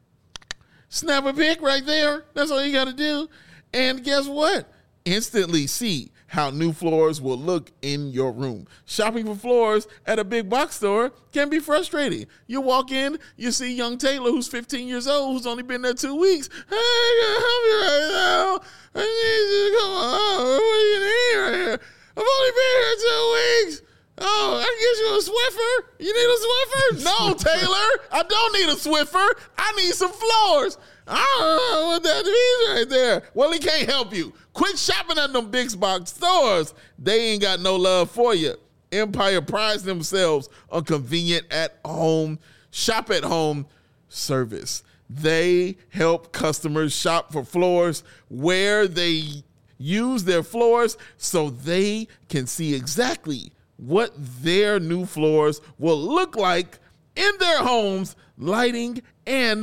Speaker 2: snap a pic right there. That's all you got to do. And guess what? Instantly see how new floors will look in your room. Shopping for floors at a big box store can be frustrating. You walk in, you see young Taylor, who's fifteen years old, who's only been there two weeks. Hey, I gotta help you right now. I need you to come on. What do you need right here? I've only been here two weeks. Oh, I can get you a Swiffer. You need a Swiffer? No, Taylor. I don't need a Swiffer. I need some floors. I don't know what that means right there. Well, he can't help you. Quit shopping at them big box stores. They ain't got no love for you. Empire prides themselves on convenient at-home, shop-at-home service. They help customers shop for floors where they use their floors so they can see exactly what their new floors will look like in their homes, lighting, and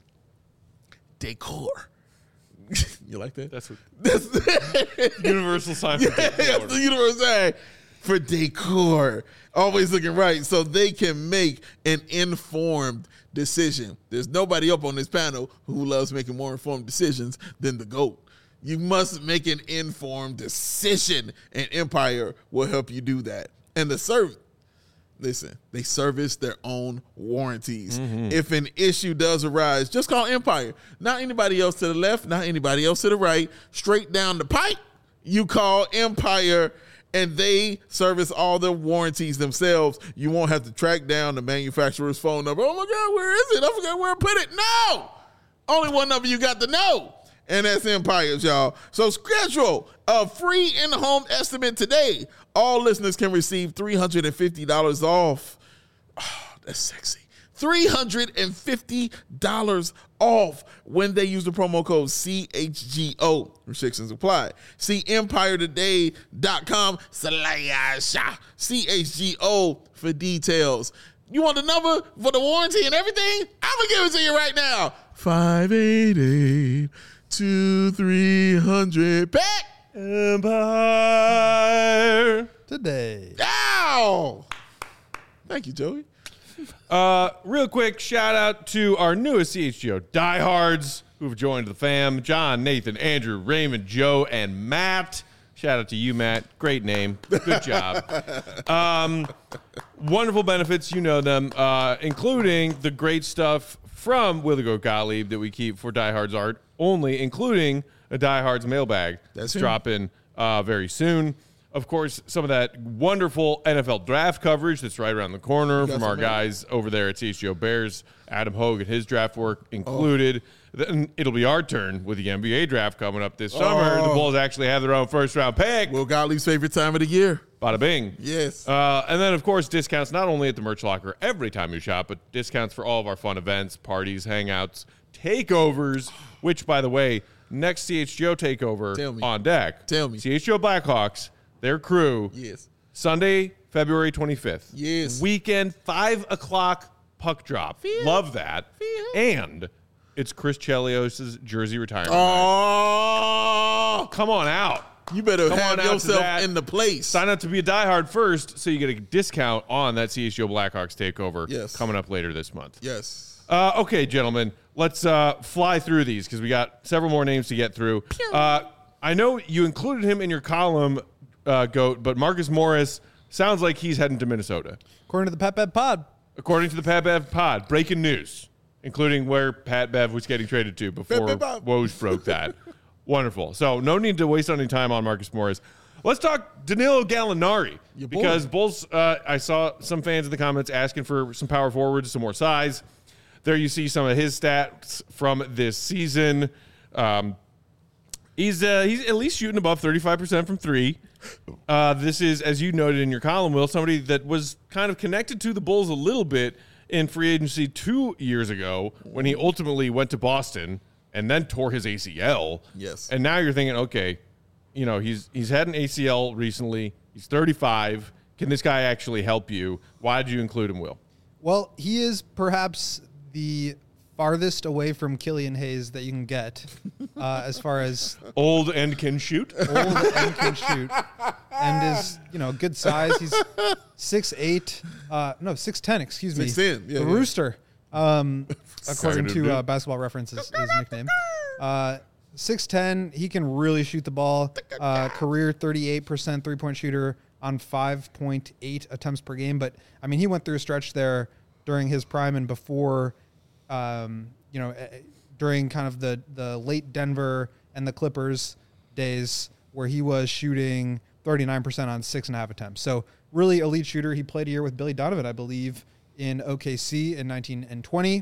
Speaker 2: decor. You like that?
Speaker 1: That's what
Speaker 2: That's
Speaker 1: universal sign for
Speaker 2: yeah,
Speaker 1: decor.
Speaker 2: that's the universal sign for decor. Always looking right so they can make an informed decision. There's nobody up on this panel who loves making more informed decisions than the GOAT. You must make an informed decision, and Empire will help you do that. And the service, listen, they service their own warranties. Mm-hmm. If an issue does arise, just call Empire. Not anybody else to the left, not anybody else to the right. Straight down the pipe, you call Empire, and they service all the warranties themselves. You won't have to track down the manufacturer's phone number. Oh, my God, where is it? I forgot where I put it. No! Only one number you got to know. And that's Empires, y'all. So schedule a free in-home estimate today. All listeners can receive three hundred fifty dollars off. Oh, that's sexy. three hundred fifty dollars off when they use the promo code C H G O. Restrictions apply. See empire today dot com slash C H G O for details. You want the number for the warranty and everything? I'm going to give it to you right now. five eight eight two three hundred Pack Empire
Speaker 3: Today.
Speaker 2: Ow! Thank you, Joey.
Speaker 1: Uh, real quick, shout out to our newest C H G O diehards who've joined the fam. John, Nathan, Andrew, Raymond, Joe, and Matt. Shout out to you, Matt. Great name. Good job. um, wonderful benefits. You know them, uh, including the great stuff from Willie Go Gottlieb that we keep for diehards art only, including a diehards mailbag
Speaker 2: That's
Speaker 1: that's
Speaker 2: him.
Speaker 1: dropping uh, very soon. Of course, some of that wonderful N F L draft coverage that's right around the corner from our
Speaker 2: some,
Speaker 1: guys over there at C H G O Bears. Adam Hogue and his draft work included. Then it'll be our turn with the N B A draft coming up this summer.
Speaker 2: Oh.
Speaker 1: The Bulls actually have their own first round pick.
Speaker 2: Will Gottlieb's favorite time of the year.
Speaker 1: Bada bing.
Speaker 2: Yes.
Speaker 1: Uh, and then, of course, discounts not only at the merch locker every time you shop, but discounts for all of our fun events, parties, hangouts, takeovers, which, by the way, next C H G O takeover
Speaker 2: Tell me.
Speaker 1: on deck.
Speaker 2: Tell me.
Speaker 1: C H G O Blackhawks, their crew.
Speaker 2: Yes.
Speaker 1: Sunday, February twenty-fifth.
Speaker 2: Yes.
Speaker 1: Weekend, five o'clock puck drop. Love that. And it's Chris Chelios' jersey retirement night.
Speaker 2: Oh,
Speaker 1: Come on out.
Speaker 2: you better
Speaker 1: Come
Speaker 2: have
Speaker 1: on out to
Speaker 2: yourself
Speaker 1: that.
Speaker 2: in the place.
Speaker 1: Sign up to be a diehard first so you get a discount on that C H G O Blackhawks takeover
Speaker 2: Yes.
Speaker 1: coming up later this month.
Speaker 2: Yes.
Speaker 1: Uh, okay, gentlemen, let's uh, fly through these because we got several more names to get through. Uh, I know you included him in your column, uh, Goat, but Marcus Morris sounds like he's heading to Minnesota.
Speaker 3: According to the Pep Ed Pod.
Speaker 1: According to the Pat Bev pod, breaking news, including where Pat Bev was getting traded to before
Speaker 2: Bev, Bev, Bev.
Speaker 1: Woj broke that. Wonderful. So no need to waste any time on Marcus Morris. Let's talk Danilo Gallinari
Speaker 2: Your boy.
Speaker 1: because Bulls. Uh, I saw some fans in the comments asking for some power forwards, some more size. There you see some of his stats from this season. Um, he's uh, he's at least shooting above thirty-five percent from three. Uh, this is, as you noted in your column, Will, somebody that was kind of connected to the Bulls a little bit in free agency two years ago when he ultimately went to Boston and then tore his A C L.
Speaker 2: Yes.
Speaker 1: And now you're thinking, okay, you know, he's he's had an A C L recently. He's thirty-five. Can this guy actually help you? Why did you include him, Will?
Speaker 3: Well, he is perhaps the farthest away from Killian Hayes that you can get uh, as far as
Speaker 1: Old and can shoot.
Speaker 3: old and can shoot, and is, you know, good size. He's six eight, uh, no six ten. Excuse me,
Speaker 2: six ten, yeah,
Speaker 3: the
Speaker 2: yeah.
Speaker 3: Rooster, um, according
Speaker 1: Second
Speaker 3: to uh,
Speaker 1: dude.
Speaker 3: Basketball Reference, is his nickname. Uh, six ten. He can really shoot the ball. Uh, career thirty-eight percent three point shooter on five point eight attempts per game. But I mean, he went through a stretch there during his prime and before. Um, you know, uh, during kind of the, the late Denver and the Clippers days where he was shooting thirty-nine percent on six and a half attempts. So really elite shooter. He played a year with Billy Donovan, I believe, in O K C in nineteen and twenty.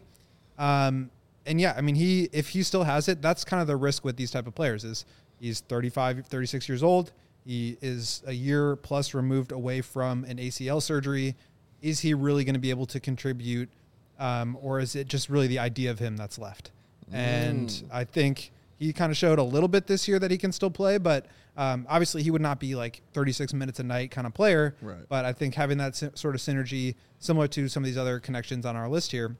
Speaker 3: Um, and yeah, I mean, he if he still has it, that's kind of the risk with these type of players is he's thirty-five, thirty-six years old. He is a year plus removed away from an A C L surgery. Is he really going to be able to contribute, um, or is it just really the idea of him that's left? Mm. And I think he kind of showed a little bit this year that he can still play, but um, obviously he would not be like thirty-six minutes a night kind of player.
Speaker 2: Right.
Speaker 3: But I think having that sort of synergy, similar to some of these other connections on our list here,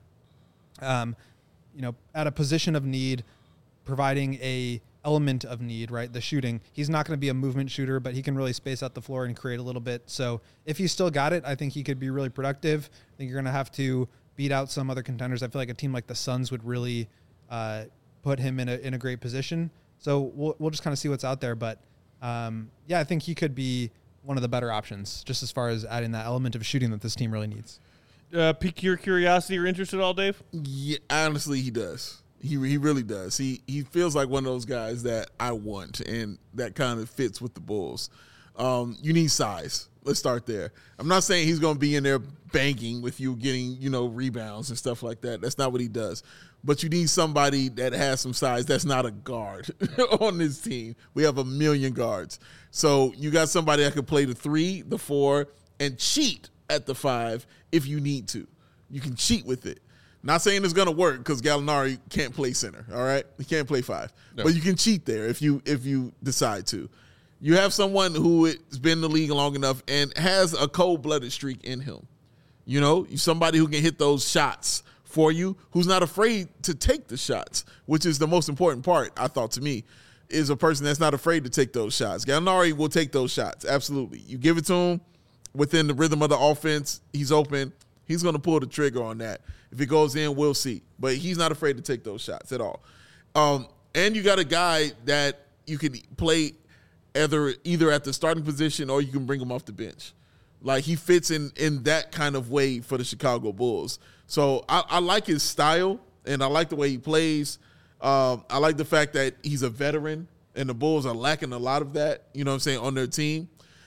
Speaker 3: um, you know, at a position of need, providing a element of need, right? The shooting. He's not going to be a movement shooter, but he can really space out the floor and create a little bit. So if he's still got it, I think he could be really productive. I think you're going to have to beat out some other contenders. I feel like a team like the Suns would really uh, put him in a in a great position. So we'll we'll just kind of see what's out there. But um, yeah, I think he could be one of the better options, just as far as adding that element of shooting that this team really needs.
Speaker 1: Uh, pique your curiosity or interest at all, Dave?
Speaker 2: Yeah, honestly, he does. He he really does. He he feels like one of those guys that I want, and that kind of fits with the Bulls. Um, you need size. Let's start there. I'm not saying he's going to be in there banking with you, getting you know rebounds and stuff like that. That's not what he does. But you need somebody that has some size. That's not a guard on this team. We have a million guards, so you got somebody that can play the three, the four, and cheat at the five if you need to. You can cheat with it. Not saying it's going to work because Gallinari can't play center, all right? He can't play five. No. But you can cheat there if you if you decide to. You have someone who has been in the league long enough and has a cold-blooded streak in him. You know, somebody who can hit those shots for you, who's not afraid to take the shots, which is the most important part, I thought, to me, is a person that's not afraid to take those shots. Gallinari will take those shots, absolutely. You give it to him within the rhythm of the offense, he's open. He's going to pull the trigger on that. If it goes in, we'll see. But he's not afraid to take those shots at all. Um, and you got a guy that you can play either either at the starting position or you can bring him off the bench. Like, he fits in in that kind of way for the Chicago Bulls. So I, I like his style, and I like the way he plays. Um, I like the fact that he's a veteran, and the Bulls are lacking a lot of that, you know what I'm saying, on their team.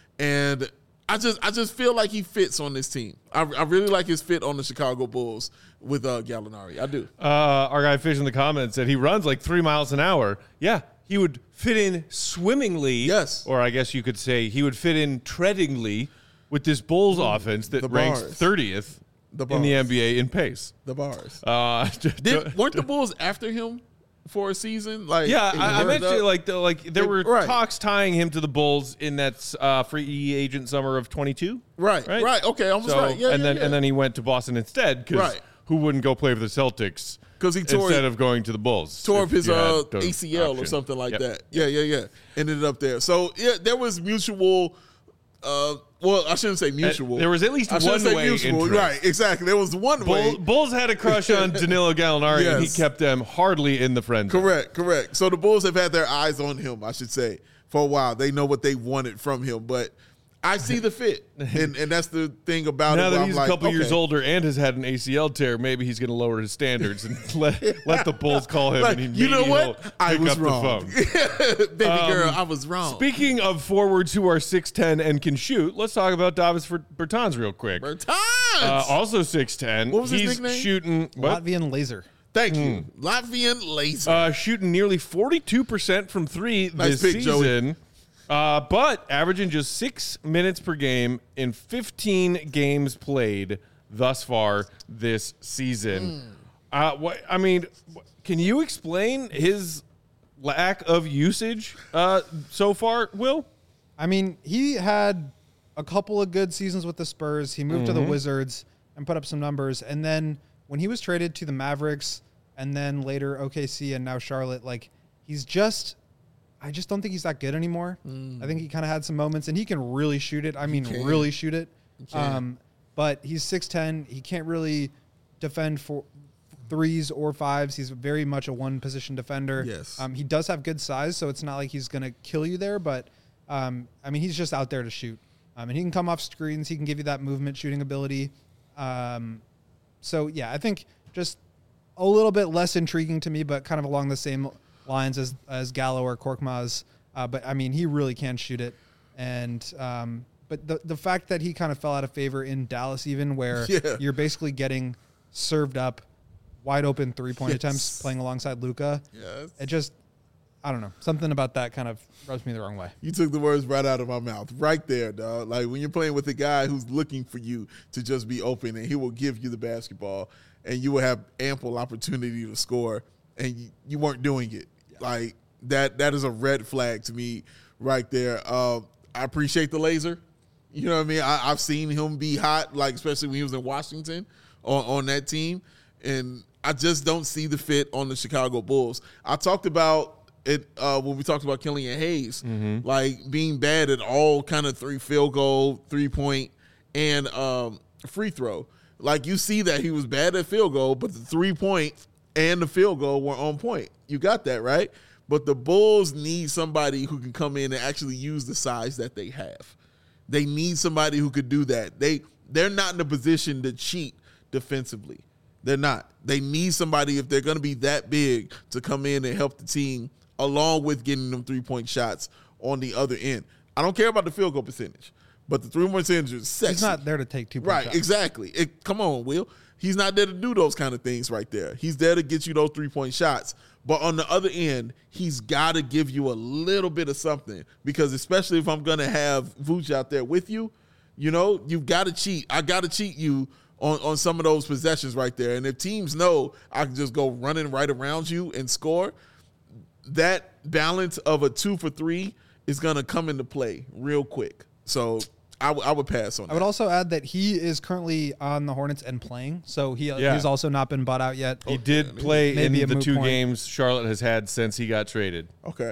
Speaker 2: And I just I just feel like he fits on this team. I, I really like his fit on the Chicago Bulls with uh, Gallinari. I do.
Speaker 1: Uh, our guy Fish in the comments said he runs like three miles an hour. Yeah, he would fit in swimmingly.
Speaker 2: Yes.
Speaker 1: Or I guess you could say he would fit in treadingly with this Bulls mm, offense that ranks thirtieth the in the N B A in pace.
Speaker 2: The bars.
Speaker 1: Uh,
Speaker 2: Did, weren't the Bulls after him for a season? Like,
Speaker 1: yeah, I, I mentioned like the, like there were
Speaker 2: right.
Speaker 1: talks tying him to the Bulls in that uh, free agent summer of twenty-two.
Speaker 2: Right, right, right. Okay, almost
Speaker 1: so,
Speaker 2: right. Yeah,
Speaker 1: and
Speaker 2: yeah,
Speaker 1: then
Speaker 2: yeah.
Speaker 1: and then he went to Boston instead because
Speaker 2: right.
Speaker 1: who wouldn't go play for the Celtics?
Speaker 2: Because he tore
Speaker 1: instead of going to the Bulls,
Speaker 2: tore up his uh, A C L
Speaker 1: option.
Speaker 2: or something like
Speaker 1: yep.
Speaker 2: that. Yeah, yeah, yeah. Ended up there. So yeah, there was mutual. Uh, well, I shouldn't say mutual.
Speaker 1: Uh, there was at least
Speaker 2: I
Speaker 1: one
Speaker 2: say
Speaker 1: way
Speaker 2: mutual.
Speaker 1: interest.
Speaker 2: Right, exactly. There was one
Speaker 1: Bull,
Speaker 2: way.
Speaker 1: Bulls had a crush on Danilo Gallinari,
Speaker 2: yes.
Speaker 1: and he kept them hardly in the friend zone.
Speaker 2: Correct, correct. So the Bulls have had their eyes on him, I should say, for a while. They know what they wanted from him, but I see the fit, and and that's the thing about
Speaker 1: now
Speaker 2: it.
Speaker 1: Now that
Speaker 2: I'm
Speaker 1: he's
Speaker 2: like,
Speaker 1: a couple
Speaker 2: okay.
Speaker 1: years older and has had an A C L tear, maybe he's going to lower his standards and let let the Bulls call him.
Speaker 2: Like,
Speaker 1: and he
Speaker 2: you know what?
Speaker 1: Pick
Speaker 2: I was
Speaker 1: up
Speaker 2: wrong.
Speaker 1: The phone.
Speaker 2: Baby
Speaker 1: um,
Speaker 2: girl, I was wrong.
Speaker 1: Speaking of forwards who are six ten and can shoot, let's talk about Davis Bertans real quick.
Speaker 2: Bertans!
Speaker 1: Uh, also six ten.
Speaker 2: What was his
Speaker 1: he's
Speaker 2: nickname?
Speaker 1: Shooting what?
Speaker 3: Latvian laser.
Speaker 2: Thank you. Latvian laser.
Speaker 1: Uh, shooting nearly forty-two percent from three
Speaker 2: Nice
Speaker 1: this
Speaker 2: pick,
Speaker 1: season. Uh, but averaging just six minutes per game in fifteen games played thus far this season. Mm. Uh, what I mean, can you explain his lack of usage uh, so far, Will?
Speaker 3: I mean, he had a couple of good seasons with the Spurs. He moved mm-hmm. to the Wizards and put up some numbers. And then when he was traded to the Mavericks and then later O K C and now Charlotte, like he's just – I just don't think he's that good anymore. Mm. I think he kind of had some moments, and he can really shoot it. I mean, really shoot it. Um, but he's six ten. He can't really defend for threes or fives. He's very much a one-position defender.
Speaker 2: Yes.
Speaker 3: Um, he does have good size, so it's not like he's going to kill you there. But, um, I mean, he's just out there to shoot. Um, and he can come off screens. He can give you that movement shooting ability. Um, so, yeah, I think just a little bit less intriguing to me, but kind of along the same lines as as Gallo or Korkmaz, uh, but I mean he really can shoot it, and um, but the the fact that he kind of fell out of favor in Dallas, even where
Speaker 2: Yeah.
Speaker 3: you're basically getting served up wide open three point
Speaker 2: Yes.
Speaker 3: attempts playing alongside Luka,
Speaker 2: Yes.
Speaker 3: it just I don't know, something about that kind of rubs me the wrong way.
Speaker 2: You took the words right out of my mouth, right there, dog. Like when you're playing with a guy who's looking for you to just be open, and he will give you the basketball, and you will have ample opportunity to score, and you, you weren't doing it. Yeah. Like that. That is a red flag to me, right there. Uh, I appreciate the laser. You know what I mean? I, I've seen him be hot, like especially when he was in Washington on, on that team, and I just don't see the fit on the Chicago Bulls. I talked about. It uh, when we talked about Killian Hayes, mm-hmm. like being bad at all kind of three field goal, three point, and um, free throw. Like you see that he was bad at field goal, but the three point and the field goal were on point. You got that right. But the Bulls need somebody who can come in and actually use the size that they have. They need somebody who could do that. They they're not in a position to cheat defensively. They're not. They need somebody, if they're going to be that big, to come in and help the team, along with getting them three-point shots on the other end. I don't care about the field goal percentage, but the three-point percentage is sexy.
Speaker 3: He's not there to take two-point
Speaker 2: right,
Speaker 3: shots.
Speaker 2: exactly. It, come on, Will. He's not there to do those kind of things right there. He's there to get you those three-point shots. But on the other end, he's got to give you a little bit of something, because especially if I'm going to have Vooch out there with you, you know, you've got to cheat. I got to cheat you on, on some of those possessions right there. And if teams know I can just go running right around you and score, that balance of a two for three is going to come into play real quick. So I, w- I would pass on that.
Speaker 3: I would also add that he is currently on the Hornets and playing, so he
Speaker 1: Yeah.
Speaker 3: he's also not been bought out yet.
Speaker 1: He did play
Speaker 3: Maybe a
Speaker 1: in the
Speaker 3: moot
Speaker 1: two
Speaker 3: point.
Speaker 1: games Charlotte has had since he got traded.
Speaker 2: Okay.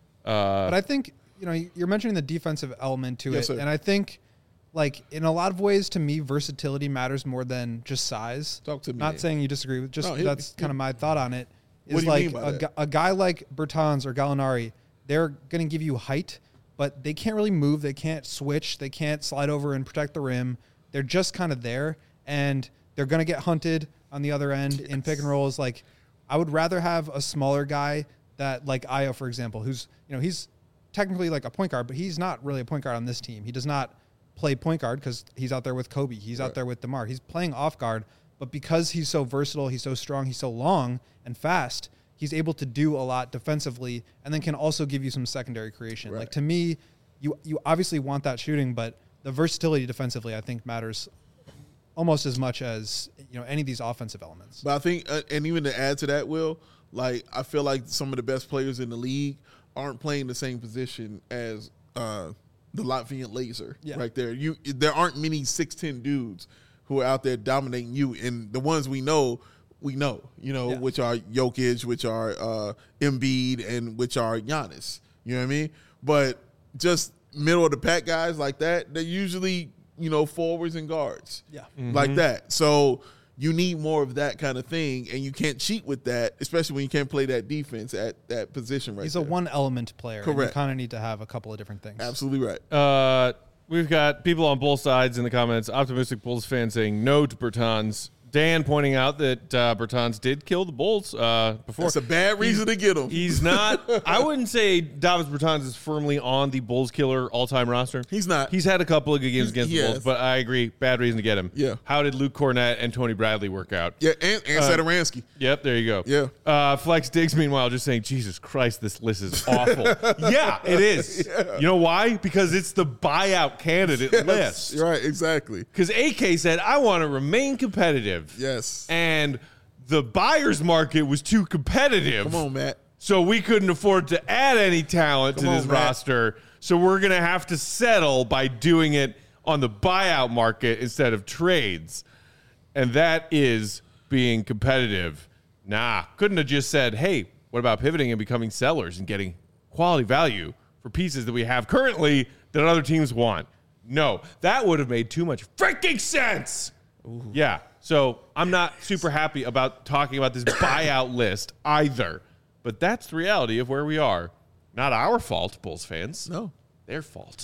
Speaker 1: Uh,
Speaker 3: But I think, you know, you're mentioning the defensive element to
Speaker 2: Yes,
Speaker 3: it.
Speaker 2: sir.
Speaker 3: And I think, like, in a lot of ways, to me, versatility matters more than just size.
Speaker 2: Talk to me.
Speaker 3: Not saying you disagree with, just
Speaker 2: No, hit
Speaker 3: that's
Speaker 2: me.
Speaker 3: kind of my thought on it. Is
Speaker 2: What do you
Speaker 3: like
Speaker 2: mean by
Speaker 3: a,
Speaker 2: that?
Speaker 3: gu- a guy like Bertans or Gallinari, they're going to give you height, but they can't really move. They can't switch. They can't slide over and protect the rim. They're just kind of there, and they're going to get hunted on the other end in pick and rolls. Like, I would rather have a smaller guy that, like Ayo, for example, who's, you know, he's technically like a point guard, but he's not really a point guard on this team. He does not play point guard because he's out there with Kobe. He's
Speaker 2: Right.
Speaker 3: out there with DeMar. He's playing off guard, but because he's so versatile, he's so strong, he's so long and fast, he's able to do a lot defensively and then can also give you some secondary creation.
Speaker 2: Right.
Speaker 3: Like, to me, you you obviously want that shooting, but the versatility defensively, I think, matters almost as much as, you know, any of these offensive elements.
Speaker 2: But I think, uh, and even to add to that, Will, like I feel like some of the best players in the league aren't playing the same position as uh, the Latvian Laser
Speaker 3: Yeah.
Speaker 2: right there. You, there aren't many six ten dudes who are out there dominating you, and the ones we know, we know, you know,
Speaker 3: Yeah.
Speaker 2: which are Jokic, which are uh, Embiid, and which are Giannis. You know what I mean? But just middle of the pack guys like that, they're usually, you know, forwards and guards.
Speaker 3: Yeah.
Speaker 2: Like that. So you need more of that kind of thing, and you can't cheat with that, especially when you can't play that defense at that position right
Speaker 3: He's
Speaker 2: there.
Speaker 3: a one element player. and
Speaker 2: Correct.
Speaker 3: You kind of need to have a couple of different things.
Speaker 2: Absolutely right.
Speaker 1: Uh, we've got people on both sides in the comments. Optimistic Bulls fans saying no to Bertans. Dan pointing out that uh, Bertans did kill the Bulls uh, before.
Speaker 2: That's a bad reason to get him.
Speaker 1: He's not. I wouldn't say Davis Bertans is firmly on the Bulls killer all-time roster.
Speaker 2: He's not.
Speaker 1: He's had a couple of good games
Speaker 2: He's-
Speaker 1: against
Speaker 2: he
Speaker 1: the Bulls,
Speaker 2: has.
Speaker 1: but I agree, bad reason to get him.
Speaker 2: Yeah.
Speaker 1: How did Luke Cornett and Tony Bradley work out?
Speaker 2: Yeah, and, and
Speaker 1: Uh,
Speaker 2: Satoransky.
Speaker 1: Yep, there you go.
Speaker 2: Yeah.
Speaker 1: Uh, Flex Diggs, meanwhile, just saying, Jesus Christ, this list is awful. yeah, it is. You know why? Because it's the buyout candidate list.
Speaker 2: Yes, right, exactly.
Speaker 1: Because A K said, I want to remain competitive.
Speaker 2: Yes.
Speaker 1: And the buyer's market was too competitive.
Speaker 2: Come on, Matt.
Speaker 1: So we couldn't afford to add any talent
Speaker 2: Come
Speaker 1: to
Speaker 2: on,
Speaker 1: this
Speaker 2: Matt.
Speaker 1: roster. So we're going to have to settle by doing it on the buyout market instead of trades. And that is being competitive. Nah, couldn't have just said, hey, what about pivoting and becoming sellers and getting quality value for pieces that we have currently that other teams want? No, that would have made too much freaking sense. Ooh. Yeah, so I'm not super happy about talking about this buyout list either. But that's the reality of where we are. Not our fault, Bulls fans.
Speaker 2: No.
Speaker 1: Their fault.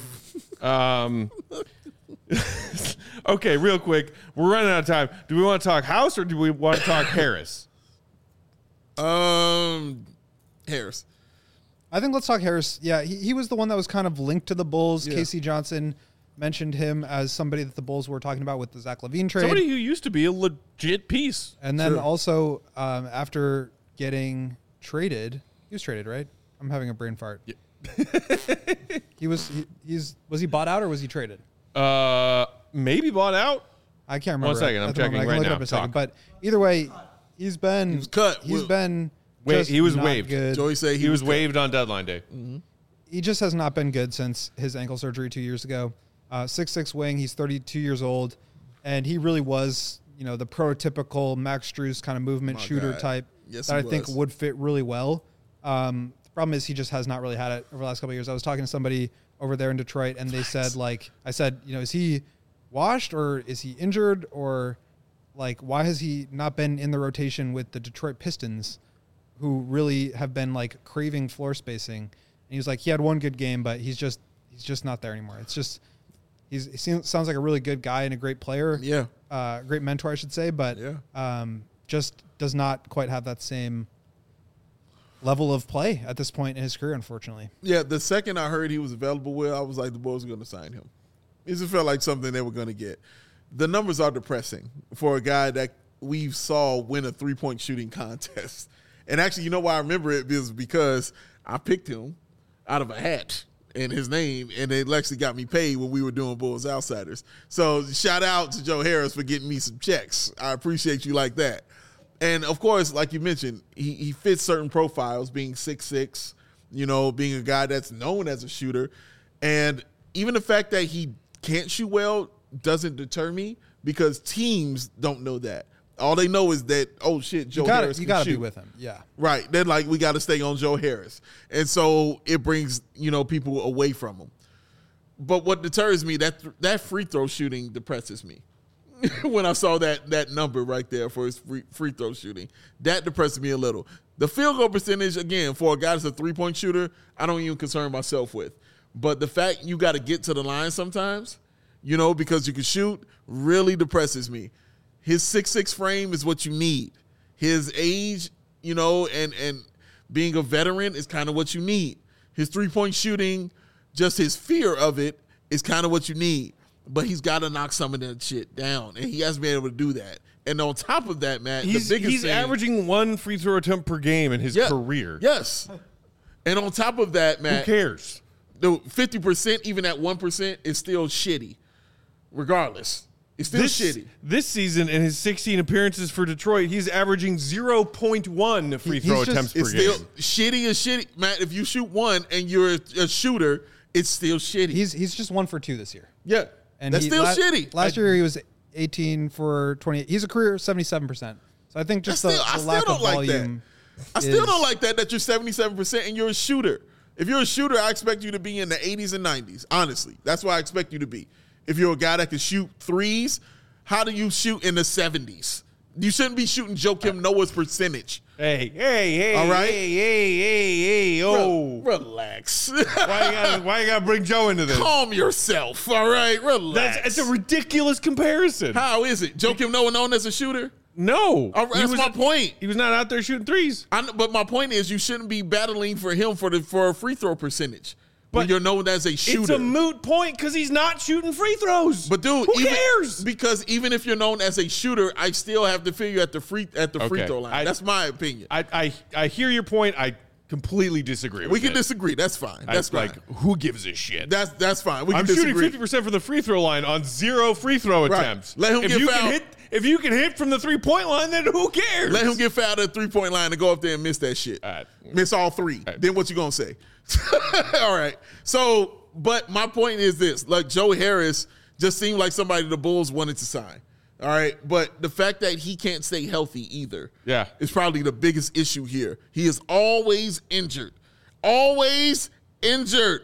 Speaker 1: um, okay, real quick. We're running out of time. Do we want to talk House or do we want to talk Harris?
Speaker 2: Um, Harris.
Speaker 3: I think let's talk Harris. Yeah, he, he was the one that was kind of linked to the Bulls.
Speaker 2: Yeah.
Speaker 3: K C Johnson mentioned him as somebody that the Bulls were talking about with the Zach LaVine trade.
Speaker 1: Somebody who used to be a legit piece.
Speaker 3: And then
Speaker 2: Sure.
Speaker 3: also um, after getting traded, he was traded, right? I'm having a brain fart.
Speaker 1: Yeah.
Speaker 3: he was he, he's was he bought out or was he traded?
Speaker 1: Uh, maybe bought out.
Speaker 3: I can't remember.
Speaker 1: One second,
Speaker 3: at
Speaker 1: I'm
Speaker 3: the moment.
Speaker 1: checking
Speaker 3: I can
Speaker 1: right
Speaker 3: look it
Speaker 1: now.
Speaker 3: up in a second.
Speaker 1: Talk.
Speaker 3: But either way, he's been he
Speaker 2: was cut.
Speaker 3: He's
Speaker 2: Wa-
Speaker 3: been
Speaker 1: Wa-
Speaker 3: just
Speaker 1: he was
Speaker 3: not
Speaker 1: waived.
Speaker 3: Good.
Speaker 2: Joey say he,
Speaker 1: He was
Speaker 2: cut.
Speaker 1: waived on deadline day.
Speaker 3: He just has not been good since his ankle surgery two years ago. Uh, six six wing. He's thirty-two years old, and he really was, you know, the prototypical Max Strus kind of movement
Speaker 2: My
Speaker 3: shooter
Speaker 2: God.
Speaker 3: type
Speaker 2: Yes,
Speaker 3: that I
Speaker 2: he
Speaker 3: think
Speaker 2: was.
Speaker 3: would fit really well. Um, the problem is he just has not really had it over the last couple of years. I was talking to somebody over there in Detroit, and they said, like, I said, you know, is he washed or is he injured, or like why has he not been in the rotation with the Detroit Pistons, who really have been like craving floor spacing? And he was like, he had one good game, but he's just he's just not there anymore. It's just he's he seems, sounds like a really good guy and a great player,
Speaker 2: Yeah.
Speaker 3: uh, great mentor, I should say, but
Speaker 2: Yeah.
Speaker 3: um, just does not quite have that same level of play at this point in his career, unfortunately.
Speaker 2: Yeah, the second I heard he was available, Will, I was like, the Bulls are going to sign him. It just felt like something they were going to get. The numbers are depressing for a guy that we saw win a three-point shooting contest. And actually, you know why I remember it is because I picked him out of a hat and his name, and it actually got me paid when we were doing Bulls Outsiders. So shout out to Joe Harris for getting me some checks. I appreciate you like that. And, of course, like you mentioned, he, he fits certain profiles, being six six, you know, being a guy that's known as a shooter. And even the fact that he can't shoot well doesn't deter me because teams don't know that. All they know is that, oh, shit, Joe
Speaker 3: You gotta,
Speaker 2: Harris
Speaker 3: you
Speaker 2: can
Speaker 3: gotta
Speaker 2: shoot.
Speaker 3: be with him. Yeah.
Speaker 2: Right. They're like, we got to stay on Joe Harris. And so it brings, you know, people away from him. But what deters me, that that free throw shooting depresses me. When I saw that that number right there for his free, free throw shooting, that depressed me a little. The field goal percentage, again, for a guy that's a three-point shooter, I don't even concern myself with. But the fact you got to get to the line sometimes, you know, because you can shoot, really depresses me. His six six frame is what you need. His age, you know, and, and being a veteran is kind of what you need. His three-point shooting, just his fear of it is kind of what you need. But he's got to knock some of that shit down, and he hasn't been able to do that. And on top of that, Matt,
Speaker 1: He's,
Speaker 2: the biggest
Speaker 1: he's
Speaker 2: thing,
Speaker 1: averaging one free throw attempt per game in his
Speaker 2: Yeah,
Speaker 1: career.
Speaker 2: Yes. And on top of that,
Speaker 1: Who
Speaker 2: Matt,
Speaker 1: cares?
Speaker 2: the fifty percent, even at one percent, is still shitty. Regardless, it's still
Speaker 1: This,
Speaker 2: shitty.
Speaker 1: this season, in his sixteen appearances for Detroit, he's averaging zero point one free
Speaker 3: He-
Speaker 1: throw
Speaker 3: he's just-
Speaker 1: attempts per
Speaker 2: It's
Speaker 1: game.
Speaker 2: still shitty as shitty, Matt. If you shoot one and you're a, a shooter, it's still shitty.
Speaker 3: He's he's just one for two this year.
Speaker 2: yeah,
Speaker 3: And
Speaker 2: that's
Speaker 3: he-
Speaker 2: still
Speaker 3: la-
Speaker 2: shitty.
Speaker 3: Last year he was eighteen for twenty-eight. He's a career seventy-seven percent. So I think just
Speaker 2: I
Speaker 3: the,
Speaker 2: still- I
Speaker 3: the
Speaker 2: still
Speaker 3: lack
Speaker 2: don't
Speaker 3: of
Speaker 2: like that.
Speaker 3: volume.
Speaker 2: I still
Speaker 3: is-
Speaker 2: don't like that that you're seventy-seven percent and you're a shooter. If you're a shooter, I expect you to be in the eighties and nineties. Honestly, that's what I expect you to be. If you're a guy that can shoot threes, how do you shoot in the seventies? You shouldn't be shooting Joakim Noah's percentage.
Speaker 1: Hey, hey, hey,
Speaker 2: All right.
Speaker 1: hey, hey, hey, hey, oh.
Speaker 2: Re- relax.
Speaker 1: why, you gotta, why you gotta bring Joe into this?
Speaker 2: Calm yourself. All right, relax.
Speaker 1: That's, it's a ridiculous comparison.
Speaker 2: How is it? Joakim Noah known as a shooter?
Speaker 1: No.
Speaker 2: All right,
Speaker 1: He
Speaker 2: that's
Speaker 1: was-
Speaker 2: my point.
Speaker 1: He was not out there shooting threes.
Speaker 2: I know, but my point is, you shouldn't be battling for him for the for a free throw percentage when
Speaker 1: But
Speaker 2: you're known as a shooter.
Speaker 1: It's a moot point because he's not shooting free throws.
Speaker 2: But dude,
Speaker 1: who
Speaker 2: even,
Speaker 1: cares?
Speaker 2: Because even if you're known as a shooter, I still have to figure at the free at the free
Speaker 1: Okay.
Speaker 2: throw line.
Speaker 1: I-
Speaker 2: That's my opinion.
Speaker 1: I, I I hear your point. I completely disagree with
Speaker 2: we can
Speaker 1: it.
Speaker 2: disagree. That's fine.
Speaker 1: I-
Speaker 2: That's fine.
Speaker 1: like, who gives a shit?
Speaker 2: that's that's fine. We can
Speaker 1: I'm
Speaker 2: disagree.
Speaker 1: shooting fifty percent from the free throw line on zero free throw
Speaker 2: Right.
Speaker 1: attempts.
Speaker 2: Let him
Speaker 1: if
Speaker 2: get
Speaker 1: you
Speaker 2: fouled.
Speaker 1: Can hit, if you can hit from the three point line, then who cares?
Speaker 2: Let him get fouled at the three point line and go up there and miss that shit.
Speaker 1: All right.
Speaker 2: Miss all three.
Speaker 1: right.
Speaker 2: Then what you gonna say? All right. So, but my point is this: like Joe Harris just seemed like somebody the Bulls wanted to sign. All right, but the fact that he can't stay healthy either,
Speaker 1: Yeah.
Speaker 2: is probably the biggest issue here. He is always injured, always injured,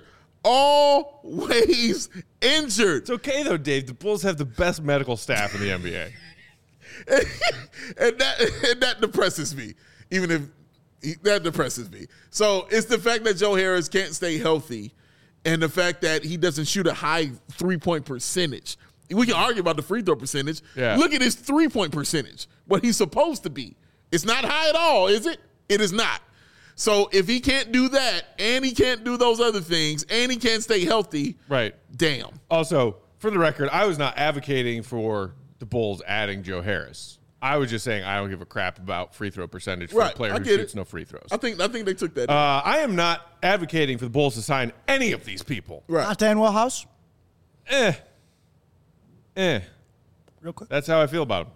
Speaker 2: always injured.
Speaker 1: It's okay though, Dave. The Bulls have the best medical staff in the N B A.
Speaker 2: and that and that depresses me. Even if he, that depresses me. So it's the fact that Joe Harris can't stay healthy, and the fact that he doesn't shoot a high three point percentage. We can argue about the free throw percentage.
Speaker 1: Yeah.
Speaker 2: Look at his three point percentage. What he's supposed to be. It's not high at all, is it? It is not. So if he can't do that, and he can't do those other things, and he can't stay healthy,
Speaker 1: Right.
Speaker 2: damn.
Speaker 1: Also, for the record, I was not advocating for the Bulls adding Joe Harris. I was just saying I don't give a crap about free throw percentage for
Speaker 2: Right,
Speaker 1: a player
Speaker 2: I
Speaker 1: who
Speaker 2: get
Speaker 1: shoots
Speaker 2: it.
Speaker 1: no free throws.
Speaker 2: I think I think they took that.
Speaker 1: Uh, I am not advocating for the Bulls to sign any of these people.
Speaker 2: right.
Speaker 4: Not Dan Wellhouse.
Speaker 1: Eh. Eh.
Speaker 4: Real quick.
Speaker 1: That's how I feel about him.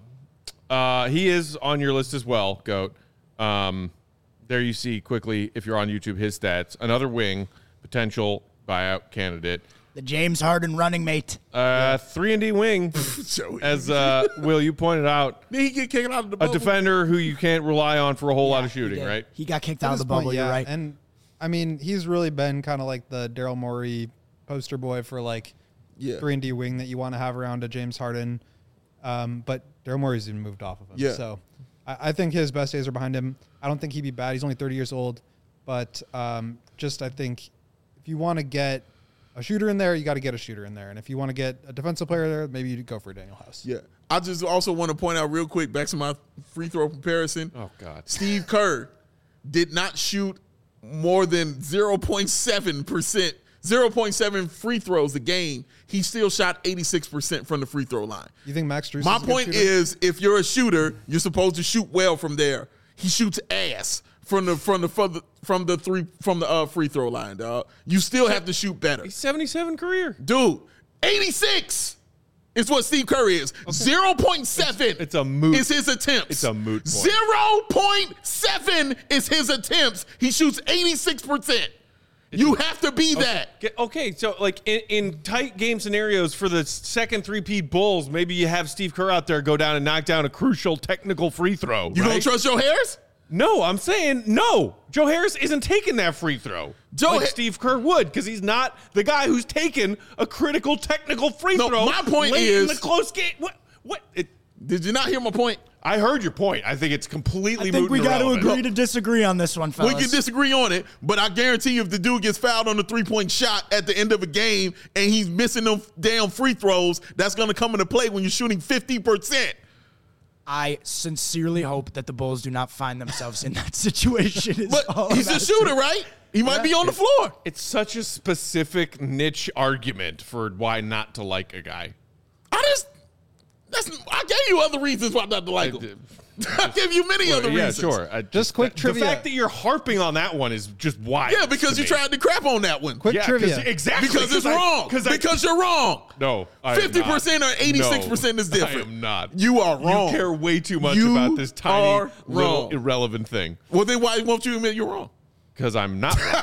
Speaker 1: Uh, he is on your list as well, Goat. Um, there you see quickly, if you're on YouTube, his stats. Another wing, potential buyout candidate.
Speaker 4: The James Harden running mate.
Speaker 1: Uh, three and D wing,
Speaker 2: Joey.
Speaker 1: as uh, Will, you pointed out,
Speaker 2: Did he get kicked out of the
Speaker 1: a
Speaker 2: bubble?
Speaker 1: defender who you can't rely on for a whole lot of
Speaker 4: He
Speaker 1: shooting,
Speaker 4: did.
Speaker 1: right?
Speaker 4: He got kicked
Speaker 3: At
Speaker 4: out of
Speaker 3: this
Speaker 4: the bubble.
Speaker 3: point,
Speaker 4: You're
Speaker 3: yeah.
Speaker 4: right.
Speaker 3: And I mean, he's really been kind of like the Daryl Morey poster boy for like
Speaker 2: Yeah.
Speaker 3: three and D wing that you want to have around a James Harden. Um, but Daryl Morey's even moved off of him.
Speaker 2: Yeah.
Speaker 3: So I, I think his best days are behind him. I don't think he'd be bad. He's only thirty years old. But um, just I think if you want to get a shooter in there, you got to get a shooter in there. And if you want to get a defensive player there, maybe you go for Daniel House.
Speaker 2: Yeah. I just also want to point out real quick, back to my free throw comparison.
Speaker 1: Oh, God.
Speaker 2: Steve Kerr did not shoot more than zero point seven percent, zero point seven free throws a game. He still shot eighty-six percent from the free throw line.
Speaker 3: You think Max Strus
Speaker 2: My
Speaker 3: is a good
Speaker 2: point
Speaker 3: shooter?
Speaker 2: is, if you're a shooter, you're supposed to shoot well from there. He shoots ass from the from the from the from the three from the uh, free throw line, dog. You still have to shoot better,
Speaker 1: He's seventy-seven career.
Speaker 2: dude. eighty-six is what Steve Kerr is. zero point seven.
Speaker 1: It's- it's a moot-
Speaker 2: Is his attempts.
Speaker 1: it's a moot point.
Speaker 2: zero point seven is his attempts. He shoots eighty-six percent. You have to be that.
Speaker 1: Get- Okay, so like in, in tight game scenarios for the second three-peat Bulls, maybe you have Steve Kerr out there go down and knock down a crucial technical free throw.
Speaker 2: You
Speaker 1: right?
Speaker 2: gonna trust Joe Harris?
Speaker 1: No, I'm saying no. Joe Harris isn't taking that free throw
Speaker 2: Joe
Speaker 1: like
Speaker 2: Ha-
Speaker 1: Steve Kerr would because he's not the guy who's taken a critical technical free
Speaker 2: No,
Speaker 1: throw.
Speaker 2: my point
Speaker 1: late in
Speaker 2: is-
Speaker 1: the close game. What? What? It,
Speaker 2: Did you not hear my point?
Speaker 1: I heard your point. I think it's completely
Speaker 4: I think
Speaker 1: moot
Speaker 4: we
Speaker 1: and
Speaker 4: got to
Speaker 1: irrelevant.
Speaker 4: agree to disagree on this one, fellas.
Speaker 2: We can disagree on it, but I guarantee you if the dude gets fouled on the three-point shot at the end of a game and he's missing them damn free throws, that's going to come into play when you're shooting fifty percent.
Speaker 4: I sincerely hope that the Bulls do not find themselves in that situation. is all
Speaker 2: But he's
Speaker 4: I'm
Speaker 2: a
Speaker 4: asking.
Speaker 2: shooter, right? He might be on the floor.
Speaker 1: It's such a specific niche argument for why not to like a guy.
Speaker 2: I just, that's, I gave you other reasons why not to like him. I gave you many other
Speaker 1: yeah,
Speaker 2: reasons.
Speaker 1: sure. I
Speaker 3: Just quick
Speaker 1: the
Speaker 3: trivia.
Speaker 1: fact that you're harping on that one is just wild.
Speaker 2: Yeah, because
Speaker 1: to
Speaker 2: you
Speaker 1: me.
Speaker 2: tried to crap on that one.
Speaker 3: Quick
Speaker 1: Yeah, 'cause-
Speaker 3: trivia.
Speaker 1: exactly
Speaker 2: Because it's
Speaker 1: I-
Speaker 2: wrong.
Speaker 1: 'cause I-
Speaker 2: Because you're wrong.
Speaker 1: no, I am
Speaker 2: fifty percent
Speaker 1: not.
Speaker 2: or eighty-six percent is
Speaker 1: No,
Speaker 2: different.
Speaker 1: I am not.
Speaker 2: You are wrong.
Speaker 1: You care way too much
Speaker 2: You
Speaker 1: about this tiny
Speaker 2: are
Speaker 1: little
Speaker 2: wrong.
Speaker 1: irrelevant thing
Speaker 2: Well, then why won't you admit you're wrong?
Speaker 1: because I'm not wrong.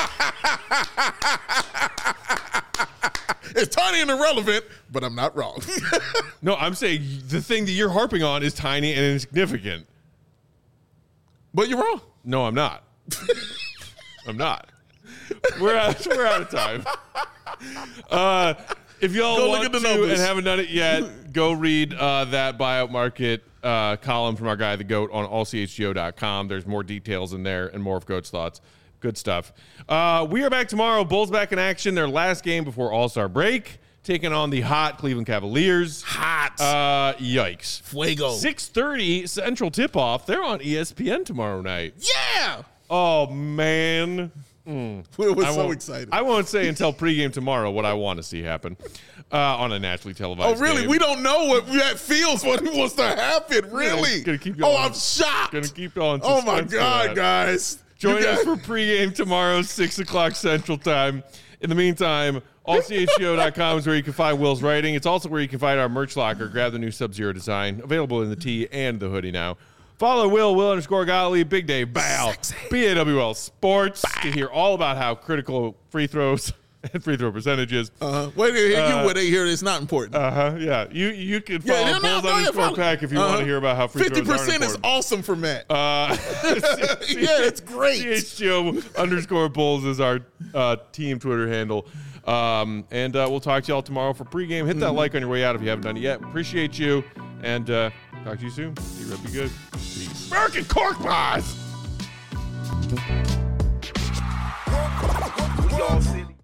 Speaker 2: It's tiny and irrelevant, but I'm not wrong.
Speaker 1: No, I'm saying the thing that you're harping on is tiny and insignificant.
Speaker 2: But you're wrong.
Speaker 1: No, I'm not. I'm not. We're out, we're out of time. Uh, if y'all
Speaker 2: Go look
Speaker 1: want
Speaker 2: at the
Speaker 1: to
Speaker 2: numbers.
Speaker 1: and haven't done it yet, go read uh, that buyout market uh, column from our guy, The Goat, on all c h g o dot com. There's more details in there and more of Goat's thoughts. Good stuff. Uh, we are back tomorrow. Bulls back in action. Their last game before All-Star break, taking on the hot Cleveland Cavaliers.
Speaker 2: Hot.
Speaker 1: Uh, yikes.
Speaker 2: Fuego.
Speaker 1: six thirty Central tip-off. They're on E S P N tomorrow night.
Speaker 2: Yeah.
Speaker 1: Oh, man.
Speaker 2: We were
Speaker 1: I
Speaker 2: so
Speaker 1: won't-
Speaker 2: excited.
Speaker 1: I won't say until pregame tomorrow what I want to see happen uh, on a nationally televised
Speaker 2: oh, really?
Speaker 1: game.
Speaker 2: We don't know what that feels, what wants to happen, really.
Speaker 1: gonna keep
Speaker 2: oh,
Speaker 1: y'all
Speaker 2: I'm
Speaker 1: on-
Speaker 2: shocked.
Speaker 1: Gonna keep y'all in
Speaker 2: oh, my
Speaker 1: suspense for
Speaker 2: God,
Speaker 1: that.
Speaker 2: guys.
Speaker 1: Join
Speaker 2: You
Speaker 1: us
Speaker 2: guys-
Speaker 1: for pregame tomorrow, six o'clock Central Time. In the meantime, all c h g o dot com is where you can find Will's writing. It's also where you can find our merch locker. Grab the new Sub-Zero design, available in the tee and the hoodie now. Follow Will, Will underscore Gottlieb, Big Dave, Bow, B A W L Sports to hear all about how critical free throws and free throw percentages.
Speaker 2: Uh-huh. Wait till you
Speaker 1: Uh,
Speaker 2: where they hear it's not important.
Speaker 1: Uh-huh, yeah. You you can follow
Speaker 2: yeah, no,
Speaker 1: Bulls
Speaker 2: no, yeah,
Speaker 1: underscore
Speaker 2: follow-
Speaker 1: pack if you
Speaker 2: uh-huh.
Speaker 1: want to hear about how free
Speaker 2: fifty
Speaker 1: throws aren't
Speaker 2: percent is
Speaker 1: important.
Speaker 2: awesome for Matt.
Speaker 1: Uh,
Speaker 2: yeah, it's great.
Speaker 1: C H G O underscore Bulls is our uh, team Twitter handle. Um, and uh, we'll talk to y'all tomorrow for pregame. Hit that
Speaker 2: Mm-hmm.
Speaker 1: like on your way out if you haven't done it yet. Appreciate you. And uh, talk to you soon. Be right, be good. Peace. American Cork Pies!
Speaker 5: We all city.